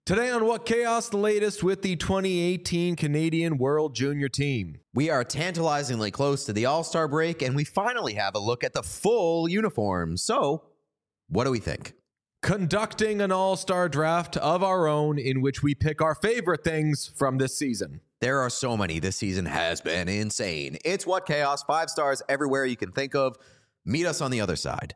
Today on What Chaos, the latest with the 2018 Canadian World Junior Team. We are tantalizingly close to the All-Star break, and we finally have a look at the full uniform. So, what do we think? Conducting an All-Star draft of our own in which we pick our favorite things from this season. There are so many. This season has been insane. It's What Chaos, 5 stars everywhere you can think of. Meet us on the other side.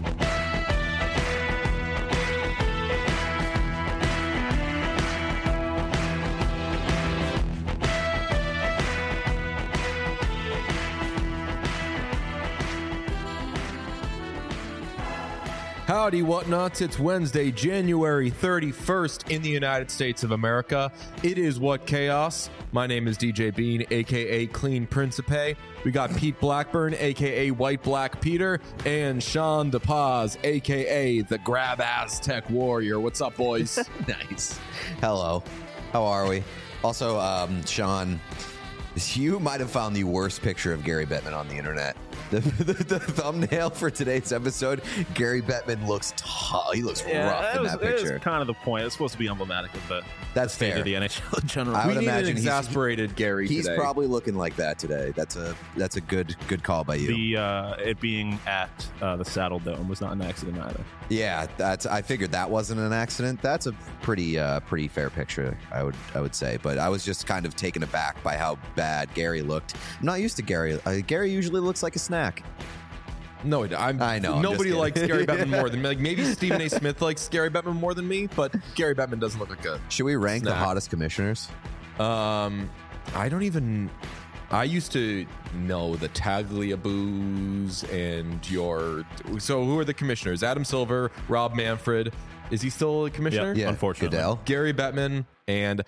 Howdy, whatnots. It's Wednesday, January 31st in the United States of America. It is What Chaos. My name is DJ Bean, a.k.a. Clean Principe. We got Pete Blackburn, a.k.a. White Black Peter, and Sean DePaz, a.k.a. the Grab Aztec Warrior. What's up, boys? Nice. Hello. How are we? Also, Sean, you might have found the worst picture of Gary Bettman on the internet. The thumbnail for today's episode, Gary Bettman looks tough. He looks rough in that picture. That was kind of the point. It's supposed to be emblematic of the state fair. of the NHL in general. I would We need imagine an exasperated Gary He's today. probably looking like that today. That's a good call by you. It being at the Saddle Dome was not an accident either. Yeah, I figured that wasn't an accident. That's a pretty fair picture, I would say. But I was just kind of taken aback by how bad Gary looked. I'm not used to Gary. Gary usually looks like a snack. No, I know. I'm Nobody just likes kidding. Gary Bettman more than me. Like, maybe Stephen A. Smith likes Gary Bettman more than me, but Gary Bettman doesn't look like a Should we rank the snack. hottest commissioners? I don't even. I used to know the Tagliaboos and your. So who are the commissioners? Adam Silver, Rob Manfred. Is he still a commissioner? Yeah. Unfortunately. Goodell. Gary Bettman and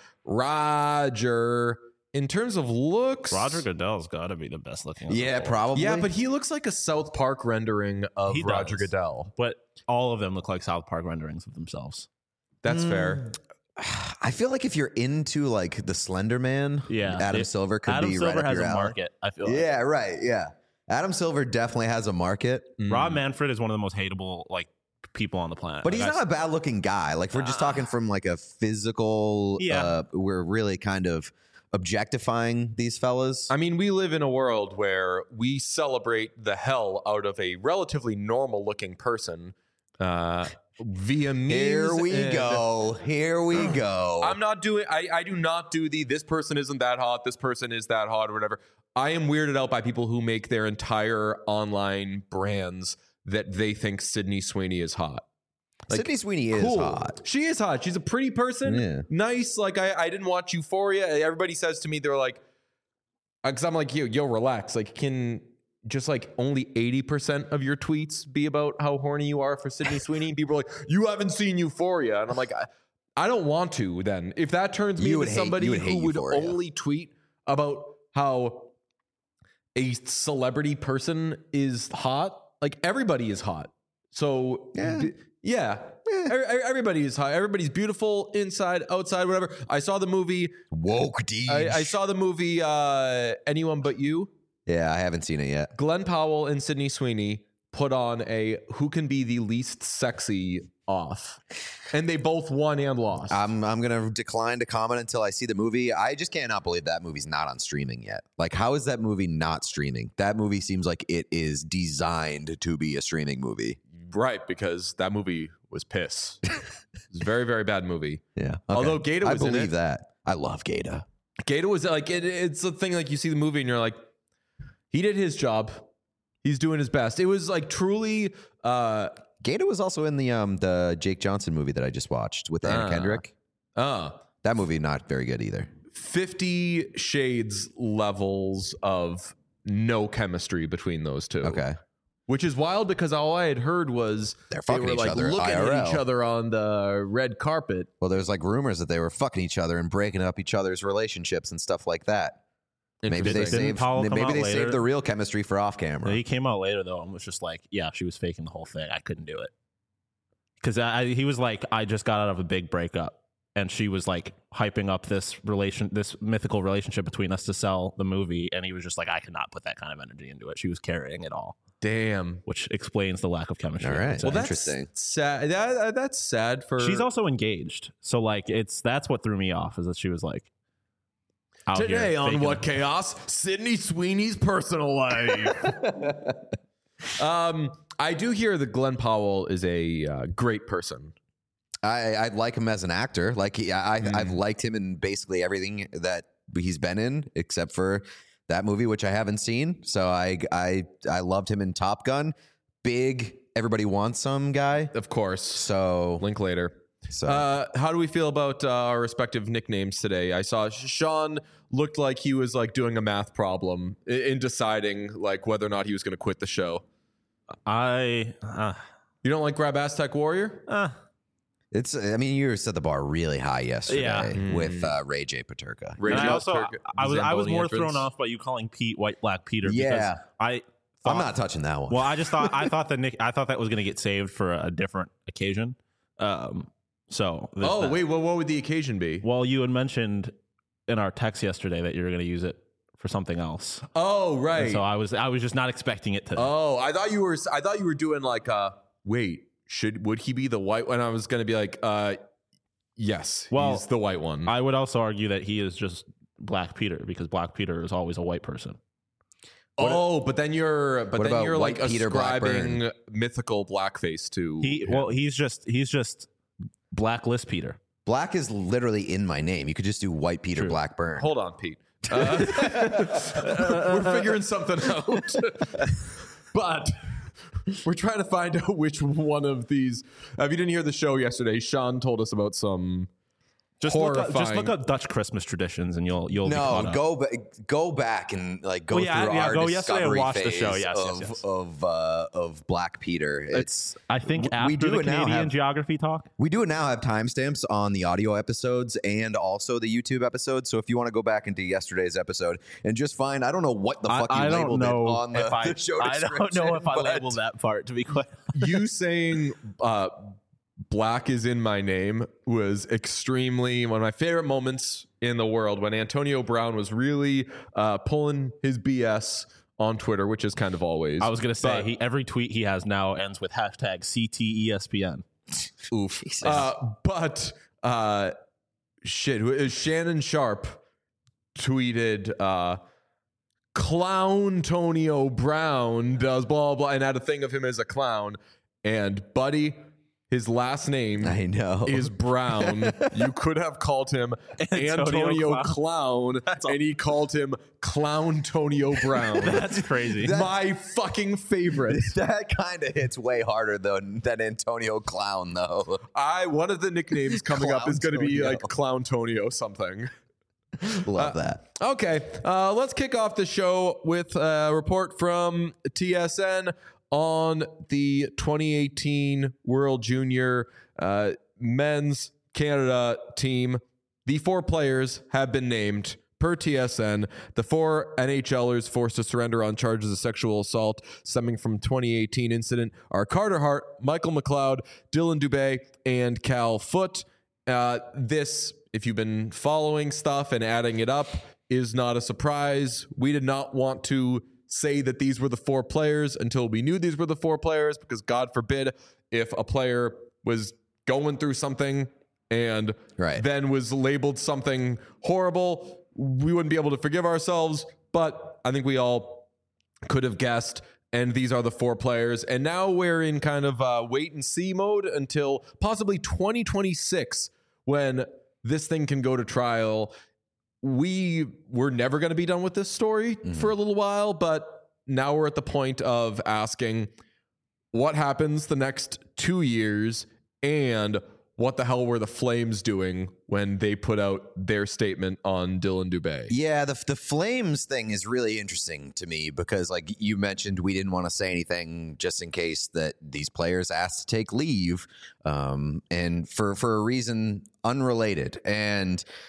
Roger. In terms of looks, Roger Goodell's got to be the best looking. of Yeah, them all. probably. Yeah, but he looks like a South Park rendering of He Roger does. Goodell. But all of them look like South Park renderings of themselves. That's fair. I feel like if you're into like the Slender Man, Yeah, Adam Silver could Adam be Silver right up has your a alley. market. I feel like. Yeah, right. Yeah, Adam Silver definitely has a market, Rob Manfred is one of the most hateable people on the planet. but he's Like, not a bad looking guy. Like if we're just talking from like a physical. Yeah. We're really kind of objectifying these fellas. I mean, we live in a world where we celebrate the hell out of a relatively normal looking person via memes. Here we and- go. Here we go. I'm not doing, I do not do this person isn't that hot, this person is that hot, or whatever. I am weirded out by people who make their entire online brands that they think Sydney Sweeney is hot. Like, Sydney Sweeney is cool. hot. She is hot. She's a pretty person. Yeah. Nice. Like I didn't watch Euphoria. Everybody says to me, they're like, because I'm like, yo, relax. Like, can just like only 80% of your tweets be about how horny you are for Sydney Sweeney? People are like, you haven't seen Euphoria. And I'm like, I don't want to then. If that turns me You into would hate- somebody you would hate who would Euphoria. only tweet about how a celebrity person is hot, like everybody is hot. So Yeah. everybody is hot. Everybody's beautiful inside, outside, whatever. I saw the movie. Woke Deej. I saw the movie Anyone But You. Yeah, I haven't seen it yet. Glenn Powell and Sydney Sweeney put on a who can be the least sexy off, and they both won and lost. I'm gonna decline to comment until I see the movie. I just cannot believe that movie's not on streaming yet. Like, how is that movie not streaming? That movie seems like it is designed to be a streaming movie. Right, because that movie was piss. It's a very, very bad movie. Yeah. Okay. Although Gaeta was I in believe it. that. I love Gaeta. Gaeta was like, it's the thing, like you see the movie and you're like, he did his job. He's doing his best. It was like truly. Gaeta was also in the Jake Johnson movie that I just watched with Anna Kendrick. That movie not very good either. 50 Shades levels of no chemistry between those two. Okay. Which is wild because all I had heard was They're they fucking were each like other looking IRL. at each other on the red carpet. Well, there's like rumors that they were fucking each other and breaking up each other's relationships and stuff like that. Maybe they Interesting. saved. Powell come Maybe out they later? saved the real chemistry for off camera. He came out later though and was just like, yeah, she was faking the whole thing. I couldn't do it. Because he was like, I just got out of a big breakup. and she was like hyping up this mythical relationship between us to sell the movie, and he was just like, I cannot put that kind of energy into it. She was carrying it all. Damn. Which explains the lack of chemistry. All right. So Well, interesting. Sad. That's sad for. she's also engaged, so like that's what threw me off, is that she was like out Today here on faking What it. Chaos, Sydney Sweeney's personal life. I do hear that Glenn Powell is a great person. I like him as an actor. Like I've liked him in basically everything that he's been in, except for that movie, which I haven't seen. So I loved him in Top Gun. Big, everybody wants some guy. Of course. So Link later. So How do we feel about our respective nicknames today? I saw Sean looked like he was like doing a math problem in deciding like whether or not he was going to quit the show. You don't like Grab Aztec Warrior? it's. I mean, you set the bar really high yesterday Yeah. with Ray J. Paterka. Ray And J. I also Paterka, I was Zamboni more entrance. thrown off by you calling Pete White Black Peter. Yeah. Because I I'm not touching that one. Well, I thought that was going to get saved for a different occasion. So there's that. Wait, what would the occasion be? Well, you had mentioned in our text yesterday that you were going to use it for something else. Oh, right. And so I was just not expecting it to. Oh, I thought you were doing like would he be the white one? I was going to be like yes, Well, he's the white one. I would also argue that he is just Black Peter, because Black Peter is always a white person. but then you're about like White Peter ascribing mythical blackface to him. He's just Blacklist Peter. Black is literally in my name. You could just do White Peter True. Blackburn. Hold on, Pete. We're figuring something out. But we're trying to find out which one of these. If you didn't hear the show yesterday, Sean told us about some Just look horrifying. up Dutch Christmas traditions, and you'll be caught No, up. go back and like go Well, through yeah, our go yesterday and discovery watch the phase show. Yes. of Black Peter. It's I think we after do the it now Canadian have- geography talk. We do now have timestamps on the audio episodes and also the YouTube episodes. So if you want to go back into yesterday's episode and just find, I don't know what the fuck you I don't labeled know it on the, if I, the show I description. don't know if I but- labeled that part, to be quite. You saying black is in my name was extremely one of my favorite moments in the world, when Antonio Brown was really pulling his BS on Twitter, which is kind of always. I was gonna say But- every tweet he has now ends with hashtag CTESPN. Oof. Jesus. But Shannon Sharp tweeted clown Tonio Brown does blah blah and had a thing of him as a clown, and buddy, his last name I know. is Brown. You could have called him Antonio Clown, and he called him Clown Tonio Brown. That's crazy. My fucking favorite. That kind of hits way harder than Antonio Clown, though. One of the nicknames coming up is going to be Clown like Clown Tonio something. Love that. Okay, let's kick off the show with a report from TSN on the 2018 World Junior Men's Canada team. The 4 players have been named. Per TSN, the 4 NHLers forced to surrender on charges of sexual assault stemming from 2018 incident are Carter Hart, Michael McLeod, Dylan Dubé, and Cal Foote. This, if you've been following stuff and adding it up, is not a surprise. We did not want to say that these were the 4 players until we knew these were the 4 players, because God forbid if a player was going through something and then was labeled something horrible, we wouldn't be able to forgive ourselves. But I think we all could have guessed, and these are the 4 players. And now we're in kind of wait and see mode until possibly 2026, when this thing can go to trial. We were never going to be done with this story for a little while, but now we're at the point of asking what happens the next 2 years, and what the hell were the Flames doing when they put out their statement on Dylan Dubé? Yeah, the Flames thing is really interesting to me, because like you mentioned, we didn't want to say anything just in case that these players asked to take leave, and for a reason unrelated. And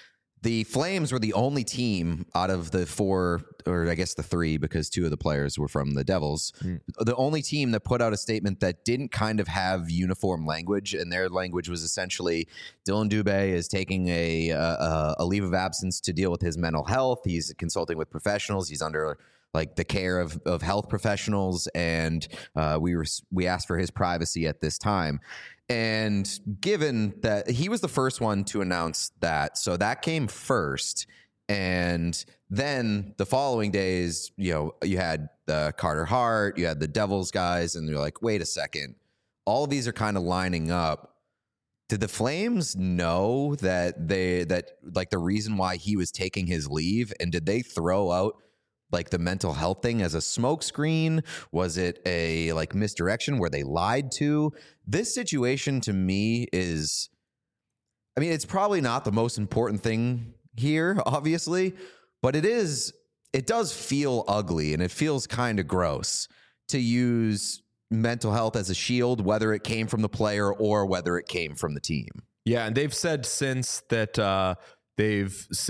the Flames were the only team out of the 4, or I guess the 3, because 2 of the players were from the Devils, the only team that put out a statement that didn't kind of have uniform language, and their language was essentially Dylan Dubé is taking a leave of absence to deal with his mental health. He's consulting with professionals. He's under like the care of health professionals, and we asked for his privacy at this time. And given that he was the first one to announce that, so that came first. And then the following days, you had Carter Hart, you had the Devils guys, and you're like, wait a second, all of these are kind of lining up. Did the Flames know that the reason why he was taking his leave, and did they throw out like the mental health thing as a smokescreen? Was it a like misdirection where they lied to? This situation to me is, I mean, it's probably not the most important thing here, obviously, but it does feel ugly, and it feels kind of gross to use mental health as a shield, whether it came from the player or whether it came from the team. Yeah, and they've said since that they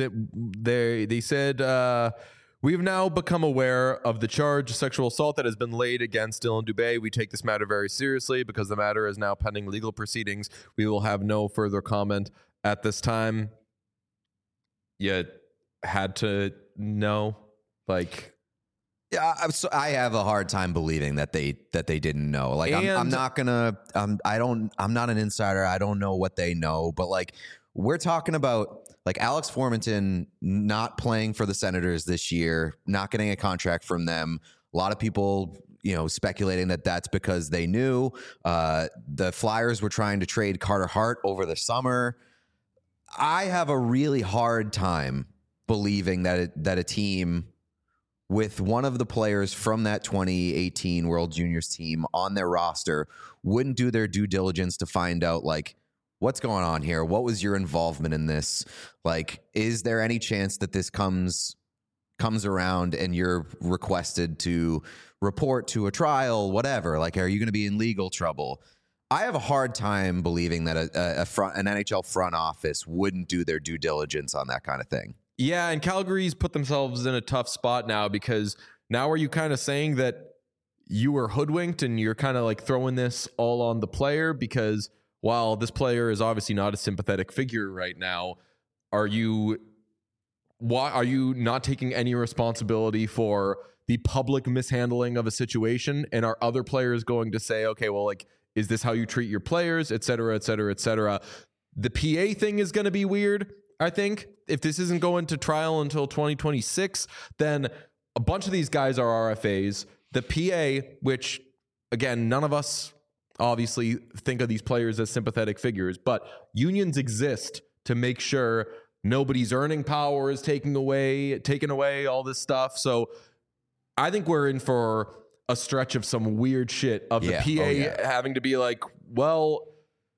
said we have now become aware of the charge of sexual assault that has been laid against Dylan Dubé. We take this matter very seriously because the matter is now pending legal proceedings. We will have no further comment at this time. You had to know, like... Yeah, I have a hard time believing that they didn't know. Like, I'm not gonna. I'm not an insider. I don't know what they know, but like, we're talking about like Alex Formenton not playing for the Senators this year, not getting a contract from them. A lot of people, speculating that that's because they knew. The Flyers were trying to trade Carter Hart over the summer. I have a really hard time believing that a team with one of the players from that 2018 World Juniors team on their roster wouldn't do their due diligence to find out, like, what's going on here? What was your involvement in this? Like, is there any chance that this comes around and you're requested to report to a trial, whatever? Like, are you going to be in legal trouble? I have a hard time believing that an NHL front office wouldn't do their due diligence on that kind of thing. Yeah, and Calgary's put themselves in a tough spot now, because now are you kind of saying that you were hoodwinked and you're kind of like throwing this all on the player? Because while this player is obviously not a sympathetic figure right now, are you not taking any responsibility for the public mishandling of a situation? And are other players going to say, okay, well, like, is this how you treat your players, et cetera, et cetera, et cetera? The PA thing is going to be weird, I think. If this isn't going to trial until 2026, then a bunch of these guys are RFAs. The PA, which, again, none of us obviously think of these players as sympathetic figures, but unions exist to make sure nobody's earning power is taken away, all this stuff. So I think we're in for a stretch of some weird shit of the PA having to be like, well,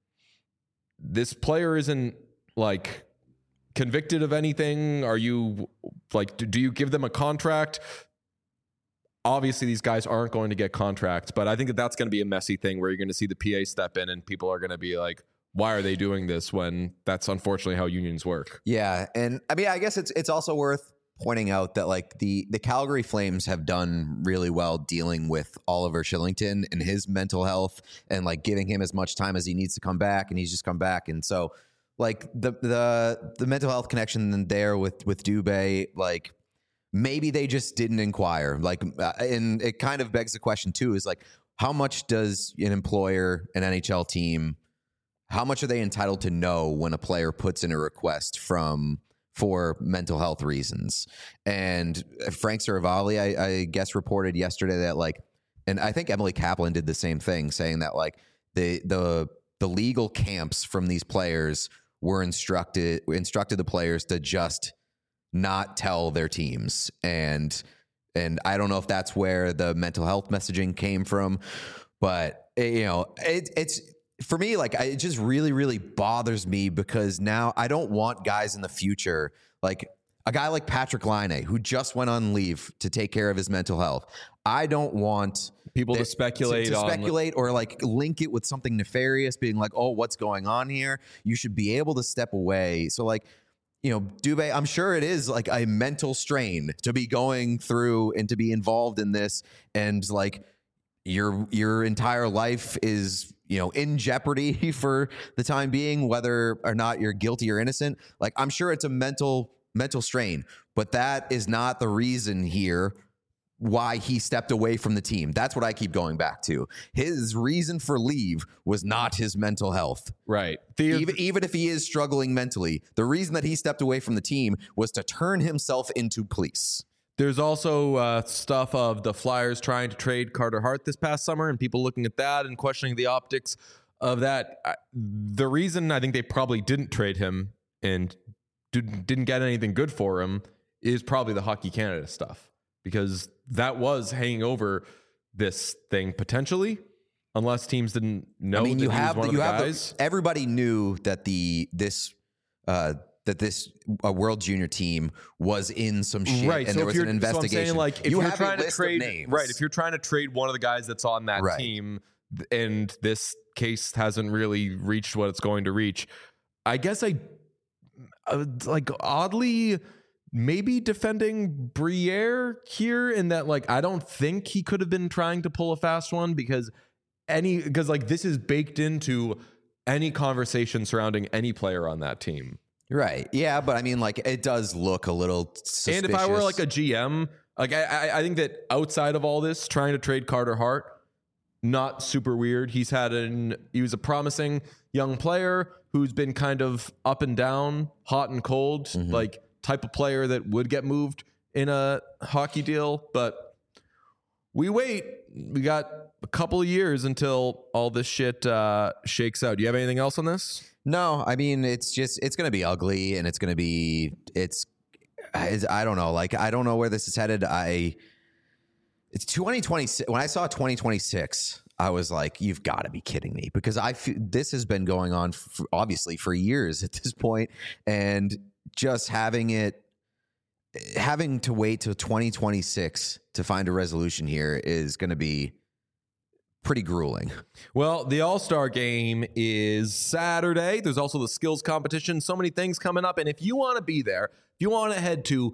this player isn't like convicted of anything. Are you like, do you give them a contract? Obviously these guys aren't going to get contracts, but I think that's going to be a messy thing where you're going to see the PA step in and people are going to be like, why are they doing this, when that's unfortunately how unions work? Yeah. And I mean, I guess it's also worth pointing out that like the Calgary Flames have done really well dealing with Oliver Kylington and his mental health, and like giving him as much time as he needs to come back, and he's just come back. And so like the mental health connection there with Dubé, like maybe they just didn't inquire. Like, and it kind of begs the question too, is like, how much does an employer, an NHL team, how much are they entitled to know when a player puts in a request for mental health reasons? And Frank Saravalli, I guess, reported yesterday that like, and I think Emily Kaplan did the same thing, saying that like the legal camps from these players were instructed the players to just not tell their teams. And I don't know if that's where the mental health messaging came from, but it's for me, like, it just really, really bothers me, because now I don't want guys in the future, like a guy like Patrick Laine, who just went on leave to take care of his mental health. I don't want people to speculate or like link it with something nefarious, being like, oh, what's going on here? You should be able to step away. So like, Dubé, I'm sure it is like a mental strain to be going through and to be involved in this, and like your entire life is in jeopardy for the time being, whether or not you're guilty or innocent. Like, I'm sure it's a mental strain, but that is not the reason here why he stepped away from the team. That's what I keep going back to. His reason for leave was not his mental health. Right. Even if he is struggling mentally, the reason that he stepped away from the team was to turn himself into police. There's also stuff of the Flyers trying to trade Carter Hart this past summer and people looking at that and questioning the optics of that. The reason I think they probably didn't trade him and didn't get anything good for him is probably the Hockey Canada stuff, because that was hanging over this thing potentially, unless teams didn't know. I mean, you have one of the guys. Everybody knew that this World Junior team was in some shit, right? And so there was an investigation. So I'm saying, like, if you you're have trying a to list trade, of names. right? If you're trying to trade one of the guys that's on that team, and this case hasn't really reached what it's going to reach, I guess like oddly maybe defending Briere here, in that, like, I don't think he could have been trying to pull a fast one, because like this is baked into any conversation surrounding any player on that team. Right. Yeah, but I mean, like, it does look a little suspicious. And if I were like a GM, like I think that outside of all this, trying to trade Carter Hart, not super weird. He was a promising young player who's been kind of up and down, hot and cold, like type of player that would get moved in a hockey deal. But we got a couple of years until all this shit shakes out. Do you have anything else on this? No, I mean, it's going to be ugly, and it's going to be, I don't know. Like, I don't know where this is headed. It's 2026. When I saw 2026, I was like, you've got to be kidding me, because this has been going on obviously for years at this point, and just having to wait till 2026 to find a resolution here is going to be pretty grueling. Well, the All-Star game is Saturday. There's also the skills competition. So many things coming up. And if you want to be there, if you want to head to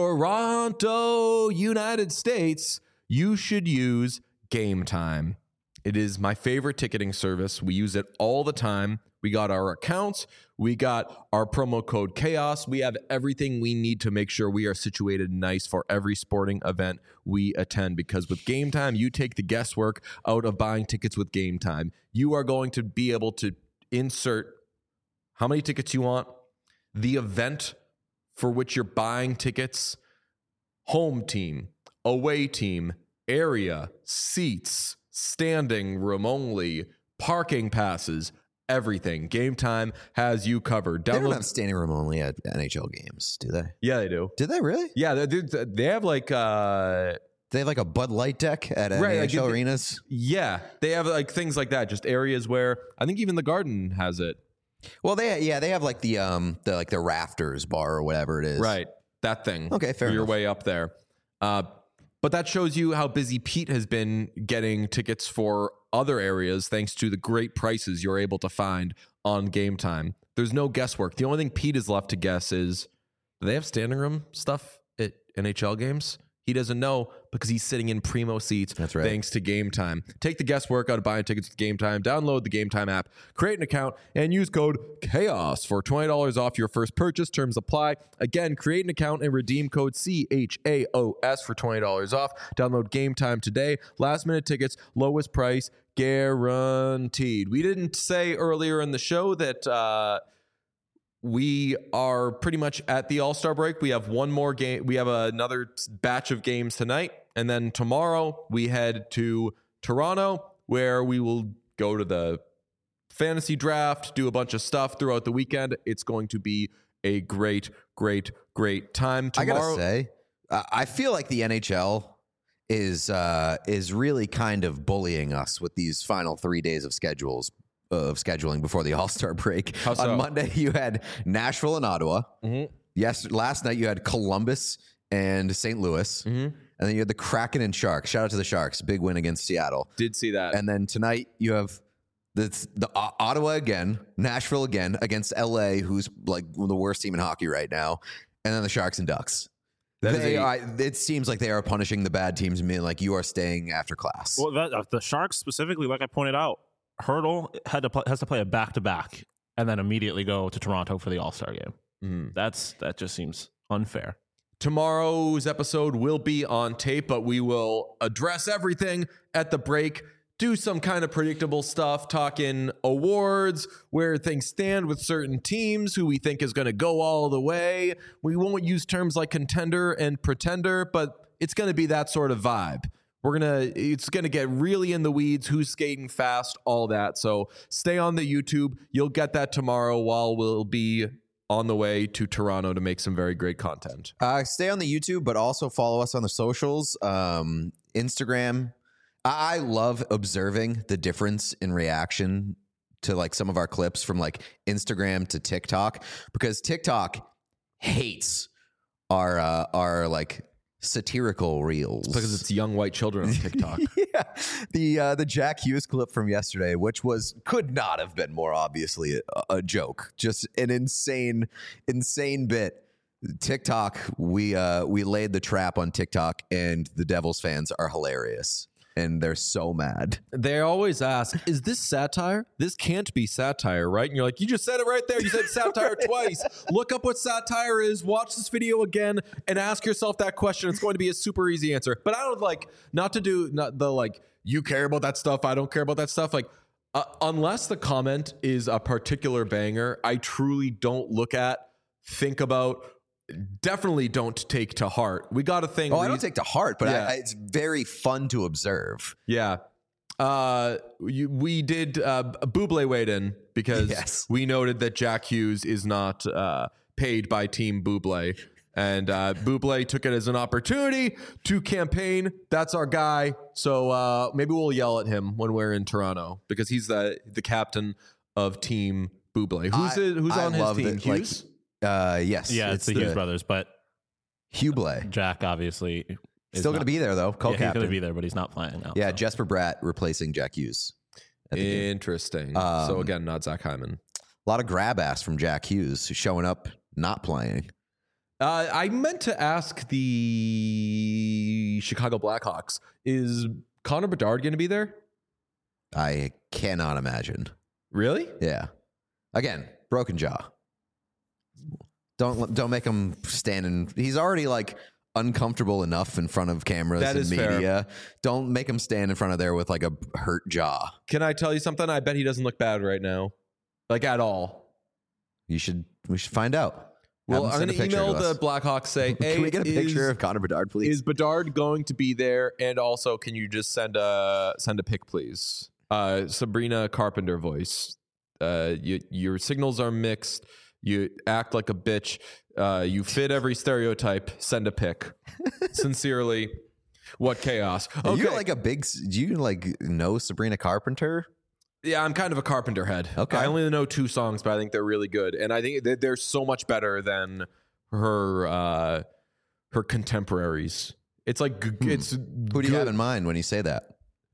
Toronto, United States, you should use Game Time. It is my favorite ticketing service. We use it all the time. We got our accounts. We got our promo code Chaos. We have everything we need to make sure we are situated nice for every sporting event we attend, because with Game Time, you take the guesswork out of buying tickets with Game Time. You are going to be able to insert how many tickets you want, the event for which you're buying tickets, home team, away team, area, seats, standing room only, parking passes, everything. Game Time has you covered. They don't have standing room only at NHL games, do they? Yeah, they do. Did they really? Yeah, they have like they have like a Bud Light deck at NHL arenas. Yeah, they have like things like that. Just areas where I think even the Garden has it. Well, they have like the rafters bar or whatever it is. Right, that thing. Okay, fair enough. Your way up there. But that shows you how busy Pete has been getting tickets for other areas thanks to the great prices you're able to find on Game Time. There's no guesswork. The only thing Pete is left to guess is, do they have standing room stuff at NHL games? He doesn't know because he's sitting in primo seats. That's right. Thanks to Game Time. Take the guesswork out of buying tickets with Game Time. Download the Game Time app, create an account, and use code CHAOS for $20 off your first purchase. Terms apply. Again, create an account and redeem code CHAOS for $20 off. Download Game Time today. Last minute tickets, lowest price guaranteed. We didn't say earlier in the show that we are pretty much at the All-Star break. We have one more game. We have another batch of games tonight. And then tomorrow we head to Toronto, where we will go to the fantasy draft, do a bunch of stuff throughout the weekend. It's going to be a great, great, great time. Tomorrow, I gotta say, I feel like the NHL is really kind of bullying us with these final 3 days of scheduling before the All-Star break. How so? On Monday, you had Nashville and Ottawa. Mm-hmm. Yes, last night you had Columbus and St. Louis. Mm-hmm. And then you had the Kraken and Sharks. Shout out to the Sharks. Big win against Seattle. Did see that. And then tonight you have That's the Ottawa again, Nashville again against LA, who's like the worst team in hockey right now, and then the Sharks and Ducks. It seems like they are punishing the bad teams and being like, you are staying after class. Well, the Sharks specifically, like I pointed out, Hurdle has to play a back-to-back and then immediately go to Toronto for the All-Star game. That just seems unfair. Tomorrow's episode will be on tape, but we will address everything at the break, do some kind of predictable stuff, talking awards, where things stand with certain teams, who we think is going to go all the way. We won't use terms like contender and pretender, but it's going to be that sort of vibe. It's going to get really in the weeds, who's skating fast, all that. So stay on the YouTube. You'll get that tomorrow while we'll be on the way to Toronto to make some very great content. Stay on the YouTube, but also follow us on the socials, Instagram. I love observing the difference in reaction to like some of our clips from like Instagram to TikTok, because TikTok hates our like satirical reels. It's because it's young white children on TikTok. Yeah, the Jack Hughes clip from yesterday, which could not have been more obviously a joke, just an insane bit. TikTok, we laid the trap on TikTok, and the Devils fans are hilarious. And they're so mad. They always ask, is this satire? This can't be satire, right? And you're like, you just said it right there. You said satire twice. Look up what satire is. Watch this video again and ask yourself that question. It's going to be a super easy answer. But I would like not the like, you care about that stuff, I don't care about that stuff. Like, unless the comment is a particular banger, I truly don't think about, definitely don't take to heart. We got a thing. I don't take to heart, but it's very fun to observe. Yeah. We did Bublé weighed in because we noted that Jack Hughes is not paid by Team Bublé. And Bublé took it as an opportunity to campaign. That's our guy. So maybe we'll yell at him when we're in Toronto, because he's the captain of Team Bublé. Who's on his team? Hughes? Yes. Yeah, it's the Hughes brothers, but Hublé. Jack obviously is still going to be there though. Co-captain. He's going to be there, but he's not playing now. Yeah, so. Jesper Bratt replacing Jack Hughes. Interesting. So again, not Zach Hyman. A lot of grab ass from Jack Hughes showing up, not playing. I meant to ask the Chicago Blackhawks, is Connor Bedard going to be there? I cannot imagine. Really? Yeah. Again, broken jaw. Don't make him stand he's already like uncomfortable enough in front of cameras and media. Fair. Don't make him stand in front of there with like a hurt jaw. Can I tell you something? I bet he doesn't look bad right now. Like at all. We should find out. Well, I'm going to email the Blackhawks, say, hey, can we get a picture of Connor Bedard, please? Is Bedard going to be there? And also, can you just send a pic, please? Sabrina Carpenter voice. Your signals are mixed. You act like a bitch. You fit every stereotype. Send a pic. Sincerely, what chaos. Okay. Are you like do you like know Sabrina Carpenter? Yeah, I'm kind of a Carpenter head. Okay. I only know 2 songs, but I think they're really good. And I think they're so much better than her contemporaries. It's like, it's who do you have in mind when you say that?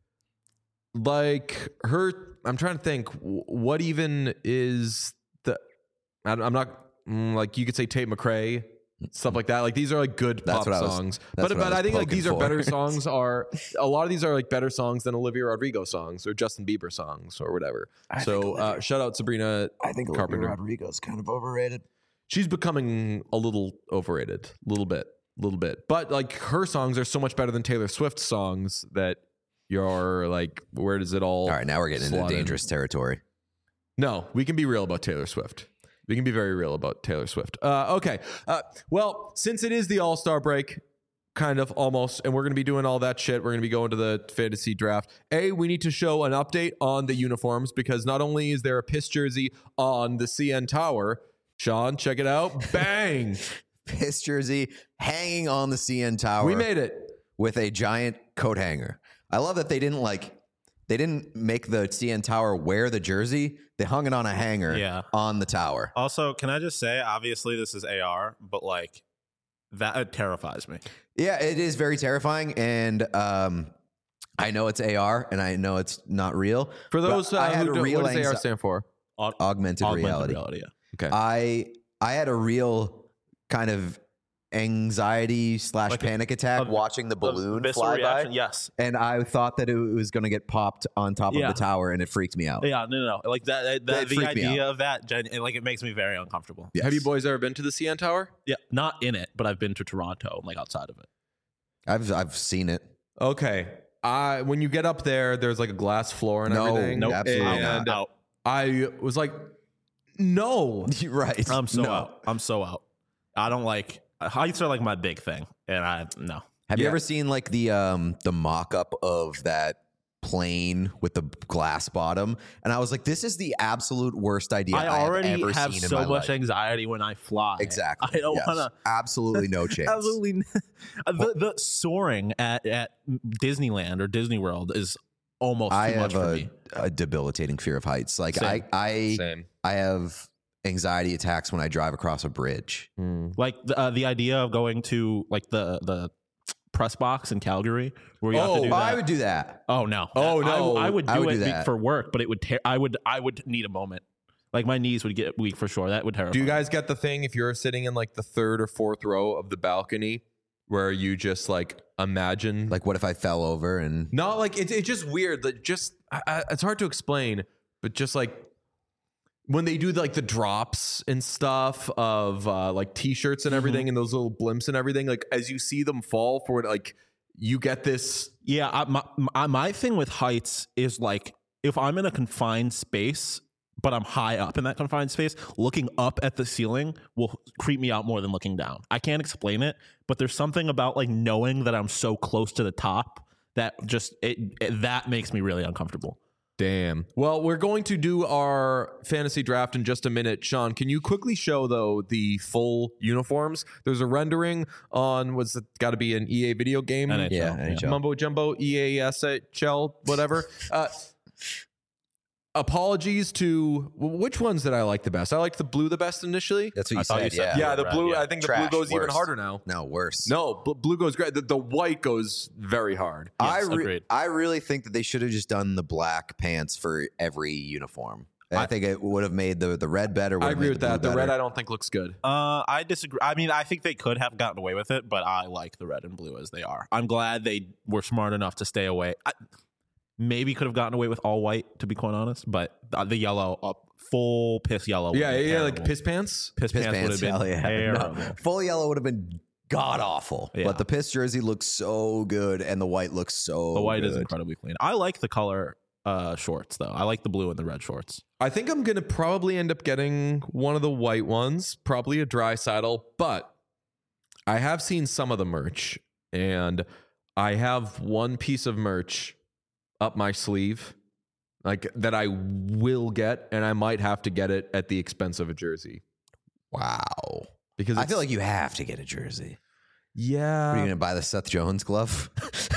Like I'm trying to think, what even is I'm not like, you could say Tate McRae, stuff like that. Like these are like good pop songs, but I think like these are better songs. A lot of these are like better songs than Olivia Rodrigo songs or Justin Bieber songs or whatever. So shout out Sabrina. I think Carpenter. Olivia Rodrigo's kind of overrated. She's becoming a little overrated, little bit. But like her songs are so much better than Taylor Swift's songs that you're like, where does it all? All right, now we're getting into dangerous territory. No, we can be real about Taylor Swift. We can be very real about Taylor Swift. Okay. Well, since it is the All-Star break, kind of almost, and we're going to be doing all that shit, we're going to be going to the fantasy draft. We need to show an update on the uniforms, because not only is there a piss jersey on the CN Tower, Sean, check it out. Bang! Piss jersey hanging on the CN Tower. We made it. With a giant coat hanger. I love that they didn't make the CN Tower wear the jersey. They hung it on a hanger on the tower. Also, can I just say, obviously this is AR, but like that terrifies me. Yeah, it is very terrifying. And I know it's AR and I know it's not real. For those but I had who a real what does AR stand for? augmented reality. Yeah. Okay. I had a real kind of anxiety / Like panic attack watching the balloon visceral fly reaction, by. yes. And I thought that it was going to get popped on top of Yeah. the tower, and it freaked me out. Yeah, no. Like that That the freaked me idea of that, like, it makes me very uncomfortable. Yes. Have you boys ever been to the CN Tower? Yeah, not in it, but I've been to Toronto, like outside of it. I've seen it. Okay. When you get up there, there's like a glass floor and No, everything. nope, absolutely And Out. I was like, no. You're right. I'm so No. out. I'm so out. I don't like heights are like my big thing, and no. Have you Yeah. ever seen like the mock-up of that plane with the glass bottom? And I was like, this is the absolute worst idea I I already have ever have seen in so my much life. anxiety when I fly. Exactly. I don't Yes. want to. Absolutely no chance. Absolutely, the soaring at Disneyland or Disney World is almost I too much have for me. a debilitating fear of heights. Like Same. I Same. have anxiety attacks when I drive across a bridge. Like the idea of going to like the press box in Calgary where you have to do that. I would do that. Oh no! Oh, no. I would do I would it do that. for work, but it would. I would need a moment. Like my knees would get weak for sure. That would terrify. Do you me. guys get the thing if you're sitting in like the third or fourth row of the balcony where you just like imagine Like, what if I fell over and not like it's just weird that it's hard to explain, but just like when they do like the drops and stuff of like t-shirts and everything and those little blimps and everything, like as you see them fall for it, like you get this. Yeah, my thing with heights is like if I'm in a confined space, but I'm high up in that confined space, looking up at the ceiling will creep me out more than looking down. I can't explain it, but there's something about like knowing that I'm so close to the top that just that makes me really uncomfortable. Damn. Well, we're going to do our fantasy draft in just a minute. Sean, can you quickly show, though, the full uniforms? There's a rendering on, what's it got to be an EA video game? NHL. Yeah, NHL. Mumbo Jumbo, EASHL, whatever. Apologies to, which ones did I like the best? I liked the blue the best initially. that's what you thought you said. said Yeah. Yeah, the red, blue, yeah. I think the Trash, blue goes even worse. harder now. No, worse. No, blue goes great. The white goes very hard. Yes, agreed. I really think that they should have just done the black pants for every uniform. I think it would have made the red better. I agree with that. The red better. I don't think looks good. I disagree. I mean, I think they could have gotten away with it, but I like the red and blue as they are. I'm glad they were smart enough to stay away. Maybe could have gotten away with all white, to be quite honest, but the yellow, full piss yellow. would Yeah, be yeah, like terrible. piss pants. Piss pants would have been hell yeah. terrible. No, full yellow would have been god awful. Yeah. But the piss jersey looks so good, and the white looks so. The white is good. incredibly clean. I like the color shorts though. I like the blue and the red shorts. I think I'm going to probably end up getting one of the white ones, probably a dry saddle, but I have seen some of the merch, and I have one piece of merch up my sleeve, like that I will get, and I might have to get it at the expense of a jersey Wow. because I feel like you have to get a jersey. Are you yeah, gonna buy the Seth Jones glove?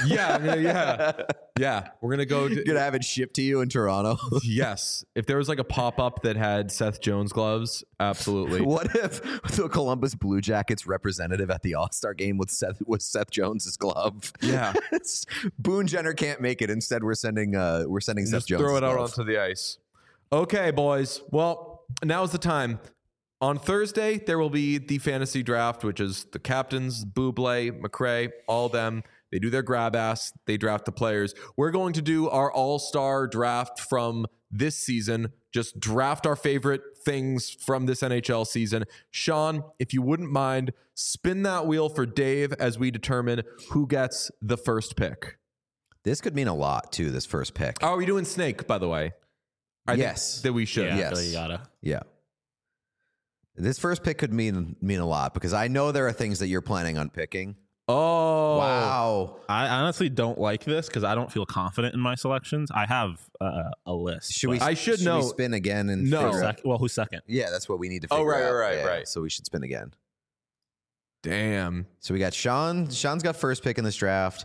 yeah. We're gonna go. You're gonna have it shipped to you in Toronto. Yes, if there was like a pop up that had Seth Jones gloves, absolutely. What if the Columbus Blue Jackets representative at the All-Star game with Seth Jones's glove? Yeah. Boone Jenner can't make it. Instead, we're sending Seth Just Jones. throw it out onto the ice. Okay, boys. Well, now's the time. On Thursday, there will be the fantasy draft, which is the captains, Buble, McRae, all them. They do their grab ass. They draft the players. We're going to do our all-star draft from this season. Just draft our favorite things from this NHL season. Sean, if you wouldn't mind, spin that wheel for Dave as we determine who gets the first pick. This could mean a lot too. This first pick. Are we doing Snake, by the way? I Yes. think that we should. Yeah, Yes. so you gotta. Yeah. This first pick could mean a lot because I know there are things that you're planning on picking. Oh. Wow. I honestly don't like this because I don't feel confident in my selections. I have a list. Should we? but- I should know- we spin again and No. figure out- Well, who's second? Yeah, that's what we need to Oh, figure right, out. right, Yeah, right. So we should spin again. Damn. So we got Sean. Sean's got first pick in this draft.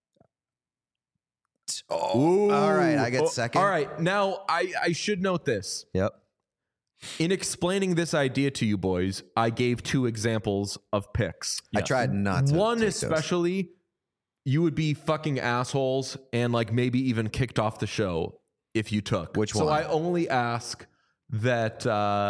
Oh, all right. I get second. All right. Now, I should note this. Yep. In explaining this idea to you boys, I gave two examples of picks. I tried not to. One take those. especially you would be fucking assholes and like maybe even kicked off the show if you took. Which So one? I only ask that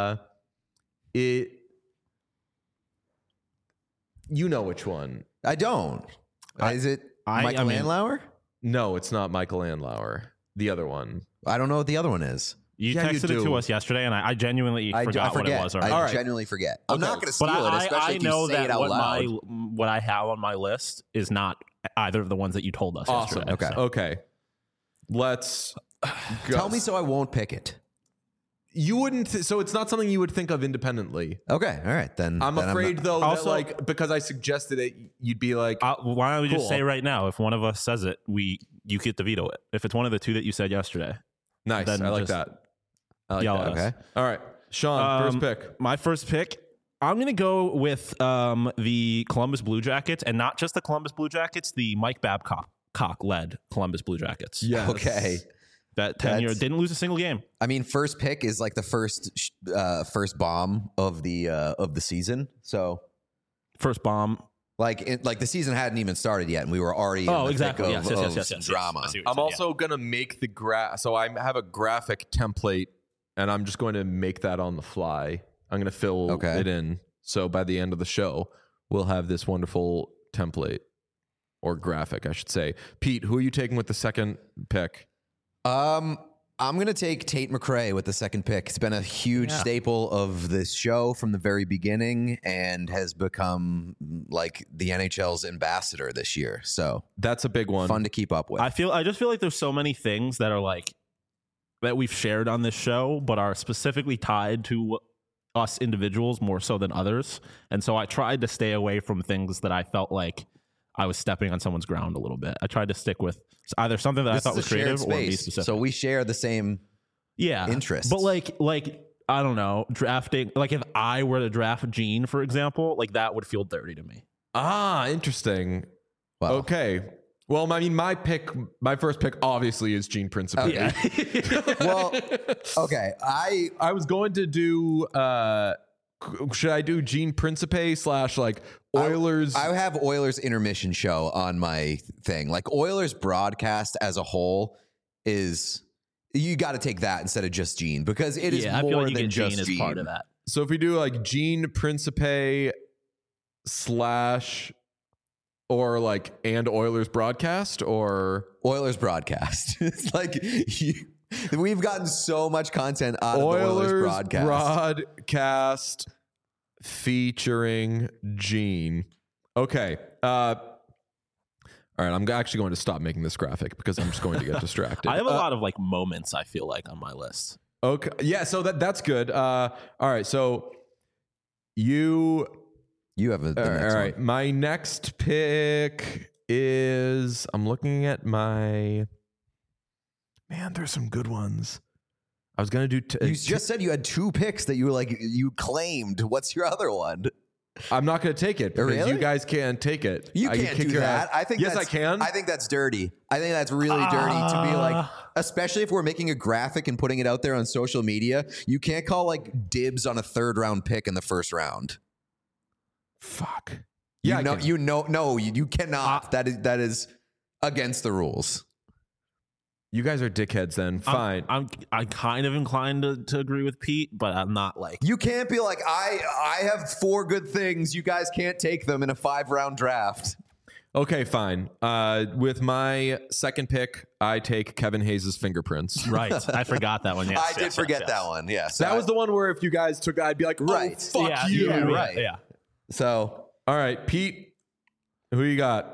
you know which one. I don't. Is it Michael I mean- Andlauer? No, it's not Michael Andlauer. The other one. I don't know what the other one is. You Yeah, you texted it do. to us yesterday, and I genuinely forgot what it was. I All right. genuinely forget. I'm not going to steal But it, especially I if you know say that it out loud. what I have on my list is not either of the ones that you told us Awesome. yesterday. Okay. So. Okay. Let's go. Tell me so I won't pick it. You wouldn't. So it's not something you would think of independently. Okay, all right then. I'm then afraid not- though that Also- like because I suggested it, you'd be like, Why don't we Cool. just say right now, if one of us says it, you get to veto it. If it's one of the two that you said yesterday, nice. then I like just that. I like yell that. at us. Okay. All right, Sean, first pick. My first pick, I'm going to go with the Columbus Blue Jackets, and not just the Columbus Blue Jackets, the Mike Babcock-led Columbus Blue Jackets. Yes. Okay. That tenure That's- didn't lose a single game. I mean, first pick is like the first bomb of the season. So First bomb. like the season hadn't even started yet, and we were already Oh, in the exactly. thick Yes, of yes. some drama. I see what you're I'm saying, also gonna make the so I have a graphic template, and I'm just going to make that on the fly. I'm gonna fill Okay. it in. So by the end of the show, we'll have this wonderful template or graphic, I should say. Pete, who are you taking with the second pick? I'm going to take Tate McRae with the second pick. It's been a huge staple of this show from the very beginning and has become like the NHL's ambassador this year. So That's a big one. fun to keep up with. I just feel like there's so many things that are like that we've shared on this show, but are specifically tied to us individuals more so than others. And so I tried to stay away from things that I felt like I was stepping on someone's ground a little bit. I tried to stick with either something that This I thought is was a shared creative or be space, specific. so we share the same interests. But like I don't know, drafting, like if I were to draft Gene, for example, like that would feel dirty to me. Ah, interesting. Wow. Okay. Well, I mean, my first pick obviously is Gene Principe. Okay. Well, okay. I was going to do should I do Gene Principe / like Oilers? I have Oilers intermission show on my thing. Like Oilers broadcast as a whole is you got to take that instead of just Gene because it is I feel more like you than get just Gene as part of that. So if we do like Gene Principe / or like and Oilers broadcast or Oilers broadcast. It's like we've gotten so much content out of the Oilers broadcast. broadcast featuring Gene. Okay. All right. I'm actually going to stop making this graphic because I'm just going to get distracted. I have a lot of like moments I feel like on my list. Okay. Yeah. So that's good. All right. So you You have the all next right. one. My next pick is I'm looking at my man. There's some good ones. I was gonna do. You just said you had two picks that you were like you claimed. What's your other one? I'm not gonna take it because Really? you guys can't take it. You I can can't kick do your that. ass. I think yes, I can. I think that's dirty. I think that's really dirty to be like, especially if we're making a graphic and putting it out there on social media. You can't call like dibs on a third round pick in the first round. Fuck. Yeah. You cannot. That is against the rules. You guys are dickheads. Then fine. I'm kind of inclined to agree with Pete, but I'm not like You can't be like I have 4 good things. You guys can't take them in a 5-round draft. Okay, fine. With my second pick, I take Kevin Hayes' fingerprints. right. I forgot that one. Yes, I did forget that one. Yes, That was the one where if you guys took, I'd be like, Right. oh, fuck you. right. Yeah. So All right, Pete, who you got?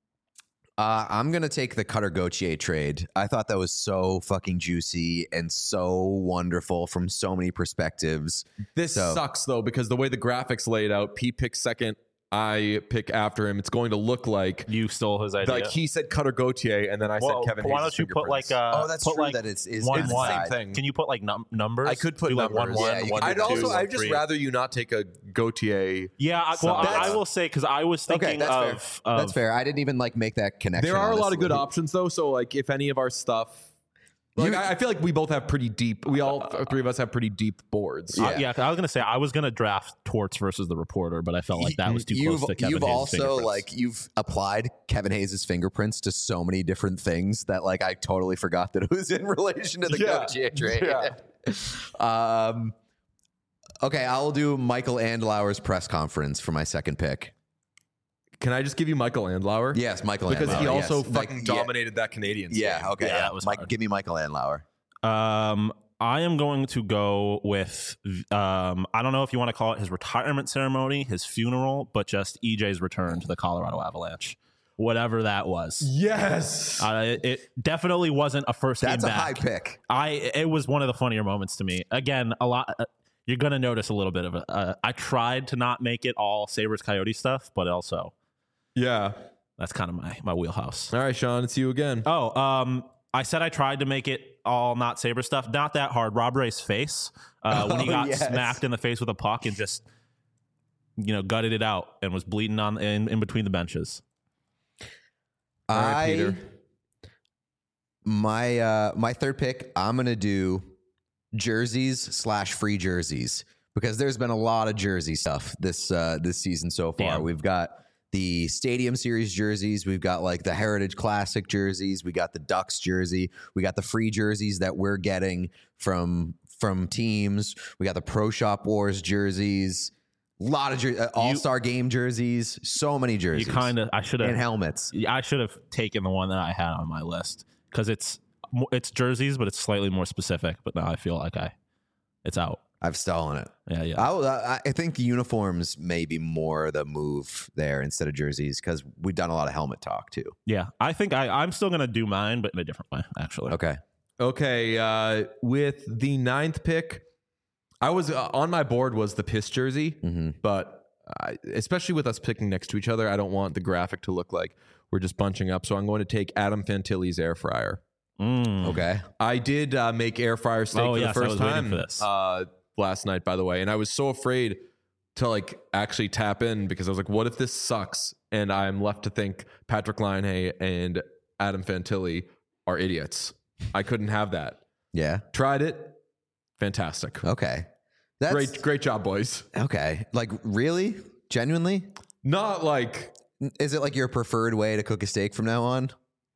I'm going to take the Cutter Gauthier trade. I thought that was so fucking juicy and so wonderful from so many perspectives. This sucks, though, because the way the graphics laid out, Pete picks second, I pick after him. It's going to look like You stole his idea. like he said Cutter Gauthier, and then I said Kevin Hayes. Why don't you put like that's put true like that it's one, it's the one. same thing. Can you put like numbers? I could put Do, like numbers. 1-1, Yeah, you 1-2, could. I'd just 1-3. rather you not take a Gauthier. Yeah, I will say because I was thinking that's of fair. That's fair. I didn't even like make that connection. There are a lot of honestly. good options, though. So, like, if any of our stuff Like I feel like we both have pretty deep. We all three of us have pretty deep boards. Yeah, I was gonna say I was gonna draft Torts versus the Reporter, but I felt like that was too close to Kevin You've Hayes' also fingerprints. like you've applied Kevin Hayes' fingerprints to so many different things that like I totally forgot that it was in relation to the Gauthier trade. Yeah. Okay, I'll do Michael Andlauer's press conference for my second pick. Can I just give you Michael Andlauer? Yes, Michael Because Andlauer. he also yes. fucking dominated that Canadians Yeah, game. okay. Yeah, that was hard. Give me Michael Andlauer. I am going to go with I don't know if you want to call it his retirement ceremony, his funeral, but just EJ's return to the Colorado Avalanche, whatever that was. Yes. It definitely wasn't a first game That's a back. high pick. It was one of the funnier moments to me. Again, a lot. You're gonna notice a little bit of it. I tried to not make it all Sabres Coyote stuff, but also Yeah. that's kind of my wheelhouse. All right, Sean, it's you again. I said I tried to make it all not Sabre stuff. Not that hard. Rob Ray's face when he got smacked in the face with a puck and just gutted it out and was bleeding on in between the benches. All right, Peter. My third pick, I'm gonna do jerseys / free jerseys because there's been a lot of jersey stuff this season so far. Damn. We've got the Stadium Series jerseys. We've got like the Heritage Classic jerseys. We got the Ducks jersey. We got the free jerseys that we're getting from teams. We got the Pro Shop Wars jerseys. A lot of All-Star Game jerseys. So many jerseys. I should have and helmets. I should have taken the one that I had on my list because it's jerseys, but it's slightly more specific. But now I feel like it's out. I've stolen it. Yeah. I think uniforms may be more the move there instead of jerseys because we've done a lot of helmet talk too. Yeah. I think I'm still gonna do mine, but in a different way, actually. Okay. With the 9th pick, I was on my board was the Piss jersey, but especially with us picking next to each other, I don't want the graphic to look like we're just bunching up. So I'm going to take Adam Fantilli's air fryer. Okay. I did make air fryer steak for the first time for this. last night, by the way, and I was so afraid to like actually tap in because I was like, what if this sucks? And I'm left to think Patrick Laine and Adam Fantilli are idiots. I couldn't have that. Yeah. Tried it. Fantastic. Okay. Great job, boys. Okay. Like really? Genuinely? Not like Is it like your preferred way to cook a steak from now on?